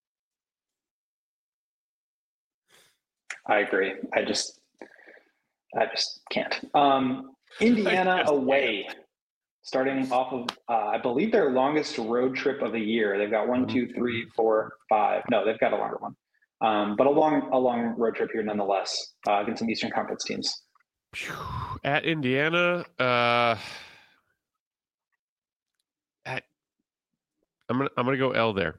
I agree. I just, I just can't. Um, Indiana just away, starting off of, uh, I believe their longest road trip of the year. They've got one, two, three, four, five. No, they've got a longer one, um, but a long, a long road trip here nonetheless uh, against some Eastern Conference teams. Phew. At Indiana, uh, at I'm gonna I'm gonna go L there.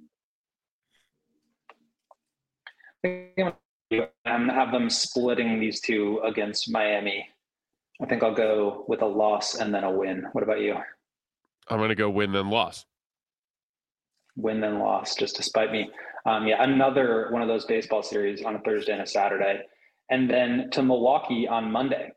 I think I'm gonna- I'm gonna have them splitting these two against Miami. I think I'll go with a loss and then a win. What about you? I'm gonna go win then loss. Win then loss, just to spite me. Um, yeah, another one of those baseball series on a Thursday and a Saturday, and then to Milwaukee on Monday.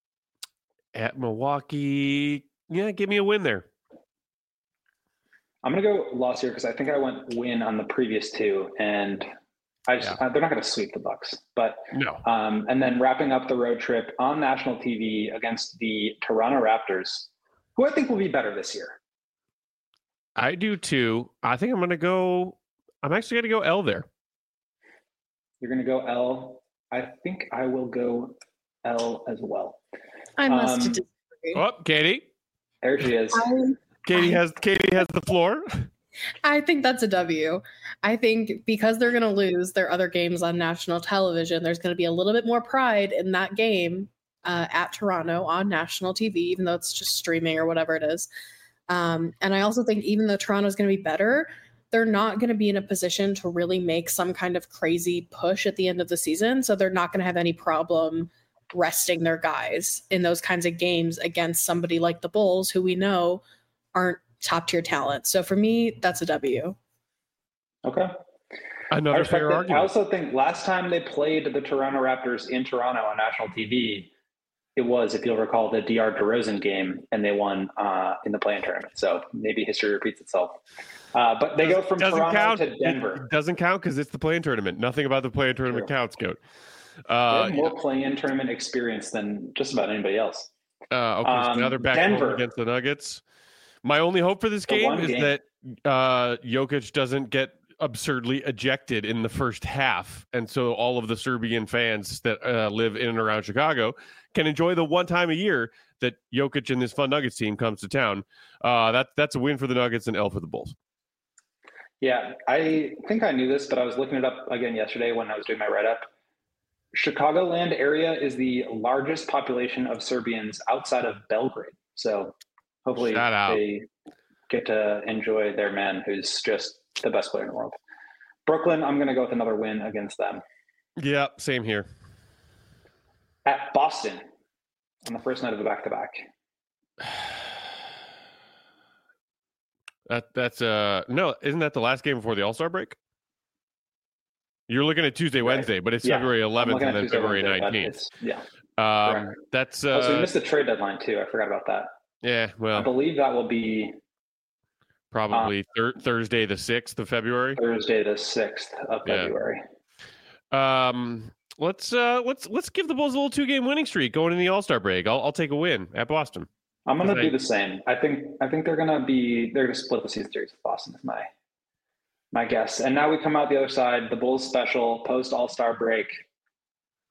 At Milwaukee, yeah, give me a win there. I'm gonna go loss here because I think I went win on the previous two, and I just uh, they're not gonna sweep the Bucks. But No. um, and then wrapping up the road trip on national T V against the Toronto Raptors, who I think will be better this year. I do too. I think I'm gonna go I'm actually gonna go L there. You're gonna go L. I think I will go L as well. I must Um, disagree. Oh, Katie. There she is. I, Katie has Katie has the floor. I think that's a W. I think because they're going to lose their other games on national television, there's going to be a little bit more pride in that game uh, at Toronto on national T V, even though it's just streaming or whatever it is. Um, and I also think even though Toronto's going to be better, they're not going to be in a position to really make some kind of crazy push at the end of the season. So they're not going to have any problem resting their guys in those kinds of games against somebody like the Bulls, who we know aren't top tier talent. So for me, that's a W. Okay. I Another respect fair it. I argument. also think last time they played the Toronto Raptors in Toronto on national T V, it was, if you'll recall, the D R DeRozan game, and they won uh, in the play-in tournament. So maybe history repeats itself. Uh, but they go from doesn't Toronto count. to Denver. It doesn't count because it's the play-in tournament. Nothing about the play-in tournament True. counts, Goat. They Uh, have more play-in tournament experience than just about anybody else. uh, okay, so Um, now they're back home Denver. against the Nuggets. My only hope for this The game one is game. that uh, Jokic doesn't get absurdly ejected in the first half, and so all of the Serbian fans that uh, live in and around Chicago can enjoy the one time a year that Jokic and this fun Nuggets team comes to town. Uh, that that's a win for the Nuggets and L for the Bulls. Yeah, I think I knew this, but I was looking it up again yesterday when I was doing my write-up. Chicagoland area is the largest population of Serbians outside of Belgrade. So hopefully Shout out. they get to enjoy their man who's just the best player in the world. Brooklyn, I'm going to go with another win against them. Yeah, same here. At Boston on the first night of the back-to-back. That that's uh no, isn't that the last game before the All Star break? You're looking at Tuesday, Right. Wednesday, but it's Yeah, February I'm eleventh looking and at then Tuesday, February Wednesday, but nineteenth. it's- Yeah. Um, correct. that's Oh, so we uh, missed the trade deadline too. I forgot about that. yeah, I well, believe that will be probably thir- Thursday the sixth of February. Thursday, the sixth of Yeah. February. Um, let's uh, let's let's give the Bulls a little two game winning streak going in the All Star break. I'll I'll take a win at Boston. I'm going to Because I- do the same. I think I think they're going to be they're going to split the season series with Boston. Is my my guess. And now we come out the other side. The Bulls special post All Star break.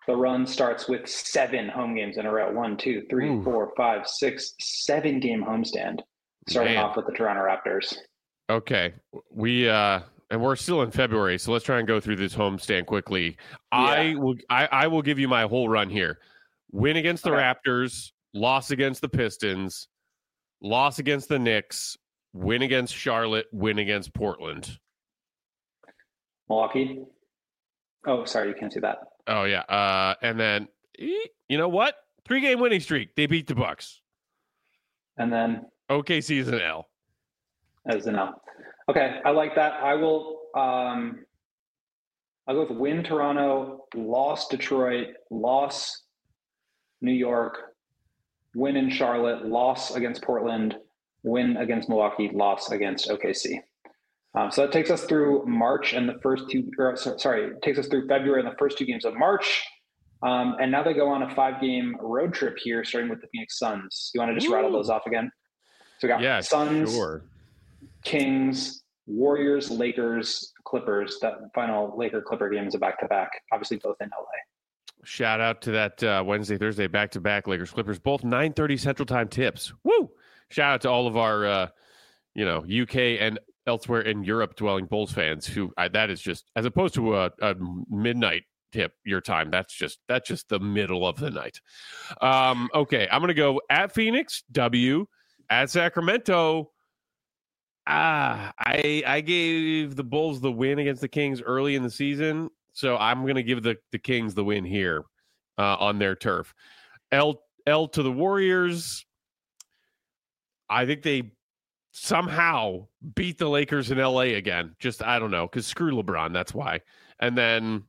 the run starts with seven home games in a row. One, two, three, Ooh. four, five, six, seven game homestand. Starting Man. off with the Toronto Raptors. Okay. We uh and we're still in February, so let's try and go through this homestand quickly. Yeah. I will I, I will give you my whole run here. Win against the Okay. Raptors, loss against the Pistons, loss against the Knicks, win against Charlotte, win against Portland. Milwaukee. Oh, sorry, you can't see that. Oh yeah. Uh and then eh, you know what? Three game winning streak. They beat the Bucks. And then O K C is an L. as an L. Okay, I like that. I will um I'll go with win Toronto, loss Detroit, loss New York, win in Charlotte, loss against Portland, win against Milwaukee, loss against O K C. Um, so that takes us through March and the first two, or, sorry, it takes us through February and the first two games of March. Um, and now they go on a five-game road trip here, starting with the Phoenix Suns. You want to just Ooh. rattle those off again? So we got Yeah, Suns, sure. Kings, Warriors, Lakers, Clippers. That final Laker-Clipper game is a back-to-back, obviously both in L A. Shout out to that uh, Wednesday, Thursday, back-to-back Lakers Clippers, both nine thirty Central Time tips. Woo! Shout out to all of our, uh, you know, U K and elsewhere in Europe dwelling Bulls fans who I, that is just, as opposed to a, a midnight tip your time, that's just that's just the middle of the night. Um, okay, I'm gonna go at Phoenix, W, at Sacramento. Ah, I I gave the Bulls the win against the Kings early in the season. So I'm going to give the, the Kings the win here uh, on their turf. L L to the Warriors. I think they somehow beat the Lakers in L A again. Just, I don't know, because screw LeBron, that's why. And then,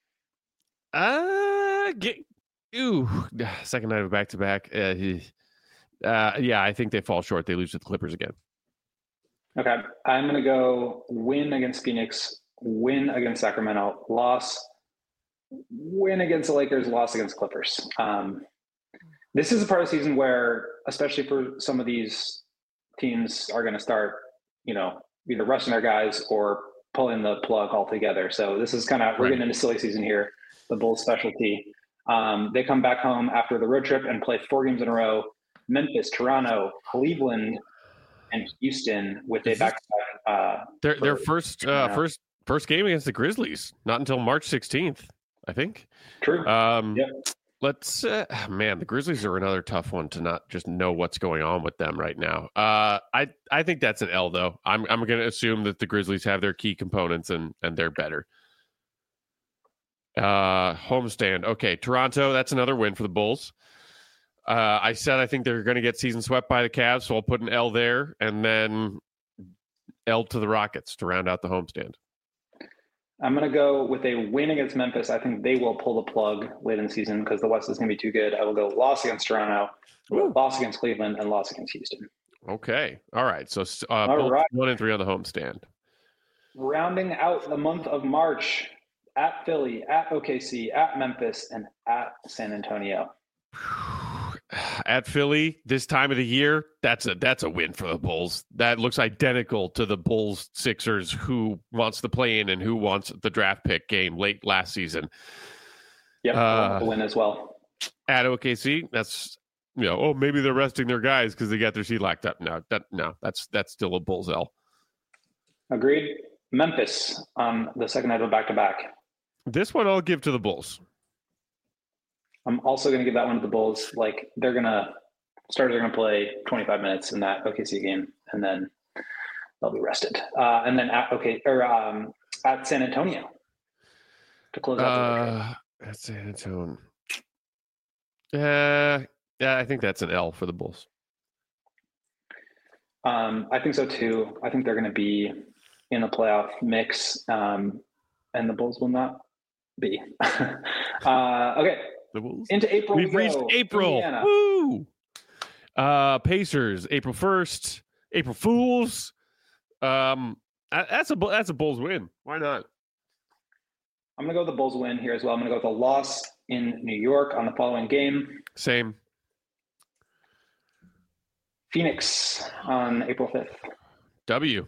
uh, get, ooh, second night of back-to-back. Uh, uh, yeah, I think they fall short. They lose to the Clippers again. Okay, I'm going to go win against Phoenix, win against Sacramento, loss, win against the Lakers, loss against Clippers. Um, this is a part of the season where, especially for some of these teams, are going to start, you know, either resting their guys or pulling the plug altogether. So this is kind of, we're Right. getting into silly season here, the Bulls specialty. Um, they come back home after the road trip and play four games in a row: Memphis, Toronto, Cleveland, and Houston, with a Is this- back-to-back. Uh, Their their for- first uh, yeah. first first game against the Grizzlies, not until March sixteenth, I think. True. Um, Yep. Let's uh, man, the Grizzlies are another tough one to not just know what's going on with them right now. Uh, I I think that's an L though. I'm I'm going to assume that the Grizzlies have their key components and and they're better. Uh, homestand. Okay, Toronto. That's another win for the Bulls. Uh, I said I think they're going to get season swept by the Cavs, so I'll put an L there, and then L to the Rockets to round out the homestand. I'm going to go with a win against Memphis. I think they will pull the plug late in the season because the West is going to be too good. I will go loss against Toronto, Ooh. loss against Cleveland, and loss against Houston. Okay. All right. So uh, All Bulls right. one and three on the homestand. Rounding out the month of March, at Philly, at O K C, at Memphis, and at San Antonio. At Philly this time of the year, that's a that's a win for the Bulls. That looks identical to the Bulls Sixers who wants to play in and who wants the draft pick game late last season. Yep, Uh, the win as well. At O K C, that's you know, oh maybe they're resting their guys because they got their seat locked up. No, that no, that's that's still a Bulls L. Agreed. Memphis on the second night of a back-to-back. This one I'll give to the Bulls. I'm also going to give that one to the Bulls. Like they're going to start, they're going to play twenty-five minutes in that O K C game, and then they'll be rested. Uh, and then at okay or um, at San Antonio to close out the road trip. Uh, at San Antonio. Uh, yeah, I think that's an L for the Bulls. Um, I think so too. I think they're going to be in the playoff mix, um, and the Bulls will not be. uh, okay, The Bulls. into April. We've we reached go. April. Indiana. Woo! Uh, Pacers, April first. April Fools. Um, that- that's a Bu- that's a Bulls win. Why not? I'm going to go with the Bulls win here as well. I'm going to go with a loss in New York on the following game. Same. Phoenix on April fifth. W.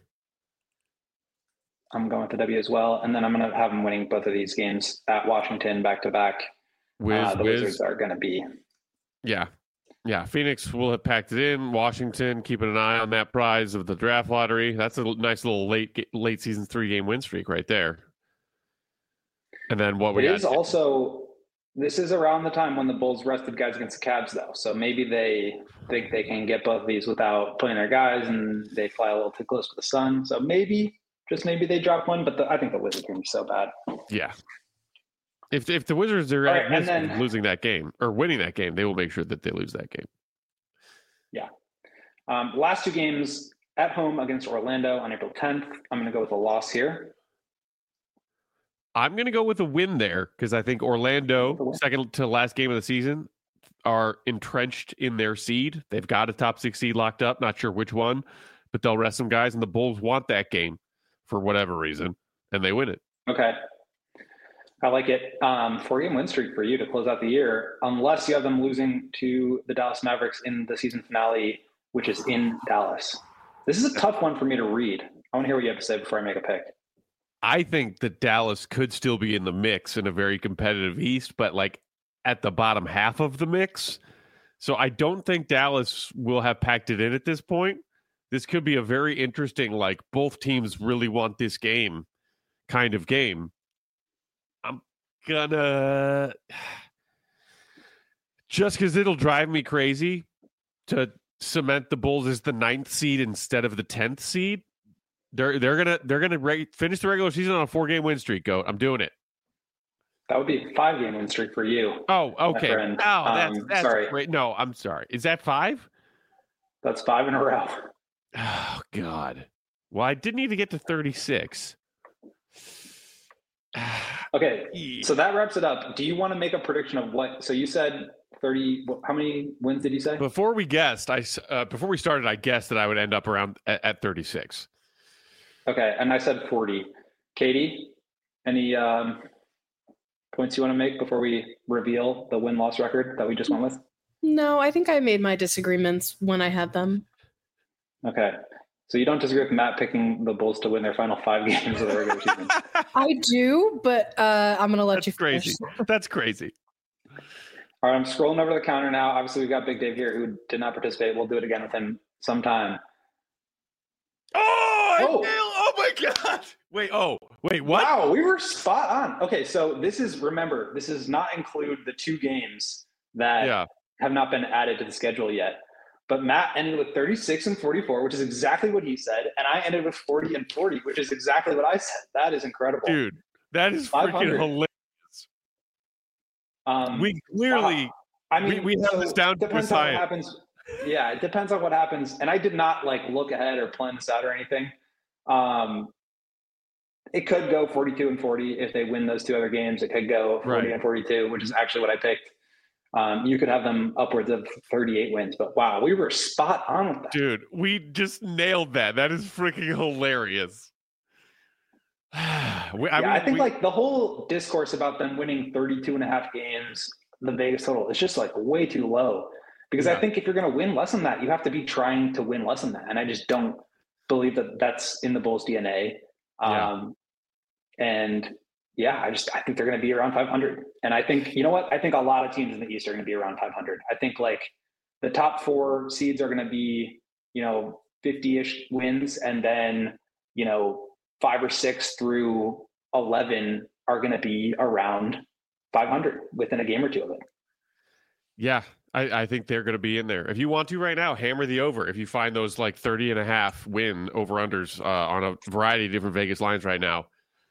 I'm going with the W as well. And then I'm going to have them winning both of these games at Washington back to back. Wiz, uh, the Wiz. Wizards are going to be. Yeah. Yeah. Phoenix will have packed it in. Washington keeping an eye on that prize of the draft lottery. That's a nice little late late season three game win streak right there. And then what we It got? is also, this is around the time when the Bulls rested guys against the Cavs, though. So maybe they think they can get both of these without playing their guys, and they fly a little too close to the sun. So maybe, just maybe they drop one. But the, I think the Wizards are going to be so bad. Yeah. If if the Wizards are All at right, risk and of then- losing that game or winning that game, they will make sure that they lose that game. Yeah. Um, last two games at home against Orlando on April tenth. I'm going to go with a loss here. I'm going to go with a win there because I think Orlando, second to last game of the season, are entrenched in their seed. They've got a top six seed locked up. Not sure which one, but they'll rest some guys, and the Bulls want that game for whatever reason, and they win it. Okay. I like it. Um, four-game win streak for you to close out the year, unless you have them losing to the Dallas Mavericks in the season finale, which is in Dallas. This is a tough one for me to read. I want to hear what you have to say before I make a pick. I think that Dallas could still be in the mix in a very competitive East, but like at the bottom half of the mix. So I don't think Dallas will have packed it in at this point. This could be a very interesting, like both teams really want this game kind of game. I'm gonna, just because it'll drive me crazy to cement the Bulls as the ninth seed instead of the tenth seed. They're they're gonna they're gonna re- finish the regular season on a four game win streak. Go, I'm doing it. That would be a five-game win streak for you. Oh, okay. Oh, friend. that's, Um, that's sorry. great. No, I'm sorry. Is that five? That's five in a row. Oh God. Well, I didn't even get to thirty-six. Okay, so that wraps it up. Do you want to make a prediction of what? So you said thirty. How many wins did you say? Before we guessed, I s- uh, before we started, I guessed that I would end up around at, at thirty-six. Okay, and I said forty. Katie, any um, points you want to make before we reveal the win-loss record that we just went with? No, I think I made my disagreements when I had them. Okay, so you don't disagree with Matt picking the Bulls to win their final five games of the regular season? I do, but uh, I'm going to let That's you finish. crazy. That's crazy. All right, I'm scrolling over the counter now. Obviously, we've got Big Dave here who did not participate. We'll do it again with him sometime. Oh, I Oh. nailed- oh my God. Wait, oh, wait, what? Wow, we were spot on. Okay, so this is, remember, this does not include the two games that Yeah. have not been added to the schedule yet. But Matt ended with thirty-six and forty-four, which is exactly what he said. And I ended with forty and forty, which is exactly what I said. That is incredible. Dude, that is five freaking hundred. hilarious. Um, We clearly, wow. I mean, we- we have so this down to a depends on what science. happens. Yeah, it depends on what happens. And I did not like look ahead or plan this out or anything. Um, it could go forty-two and forty if they win those two other games. It could go forty Right. and forty-two, which is actually what I picked. Um, you could have them upwards of thirty-eight wins. But wow, we were spot on with that. dude, we just nailed that. That is freaking hilarious. we, yeah, I, I, mean, think we- like the whole discourse about them winning thirty-two and a half games, the Vegas total, is just like way too low. Because Yeah. I think if you're going to win less than that, you have to be trying to win less than that. And I just don't believe that that's in the Bulls' D N A. Yeah. Um, and yeah, I just, I think they're going to be around five hundred. And I think, you know what? I think a lot of teams in the East are going to be around five hundred. I think like the top four seeds are going to be, you know, fifty-ish wins. And then, you know, five or six through eleven are going to be around five hundred within a game or two of it. yeah, I, I think they're going to be in there. If you want to right now, hammer the over. If you find those like thirty and a half win over unders uh, on a variety of different Vegas lines right now,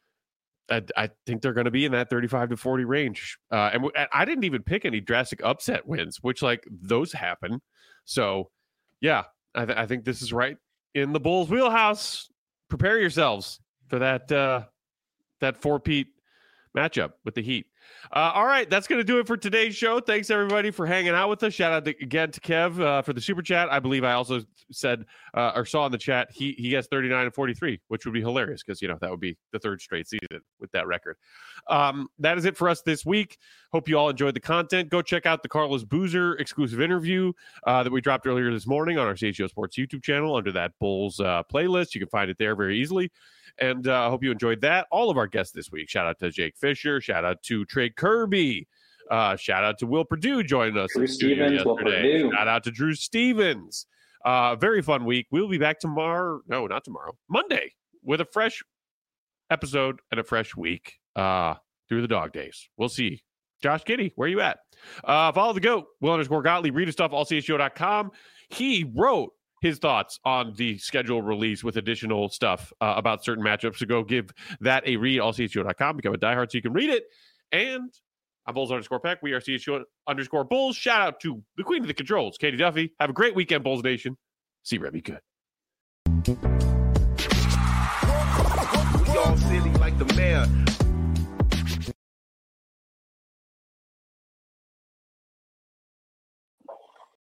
I, I think they're going to be in that thirty-five to forty range. Uh, and, w- and I didn't even pick any drastic upset wins, which like those happen. So yeah, I, th- I think this is right in the Bulls wheelhouse. Prepare yourselves for that, uh, that four-peat matchup with the Heat. Uh, all right, that's going to do it for today's show. Thanks, everybody, for hanging out with us. Shout out to, again to Kev uh, for the super chat. I believe I also said uh, or saw in the chat he he gets thirty-nine and forty-three, which would be hilarious because, you know, that would be the third straight season with that record. Um, that is it for us this week. Hope you all enjoyed the content. Go check out the Carlos Boozer exclusive interview uh, that we dropped earlier this morning on our C H G O Sports YouTube channel under that Bulls uh, playlist. You can find it there very easily. And I uh, hope you enjoyed that. All of our guests this week. Shout out to Jake Fisher. Shout out to Trey Kirby. Uh, shout out to Will Purdue joining us. Drew Stevens, Will Purdue. Shout out to Drew Stevens. Uh, very fun week. We'll be back tomorrow. No, not tomorrow. Monday with a fresh episode and a fresh week uh, through the dog days. We'll see. Josh Giddey, where you at? Uh, follow the GOAT, Will underscore Gottlieb. Read his stuff, all c s show dot com. He wrote his thoughts on the schedule release with additional stuff uh, about certain matchups. So go give that a read, all c s show dot com. Become a diehard so you can read it. And I'm Bulls underscore Peck. We are C S U underscore Bulls. Shout out to the queen of the controls, Katie Duffy. Have a great weekend, Bulls Nation. See Remy good. We all silly like the mayor.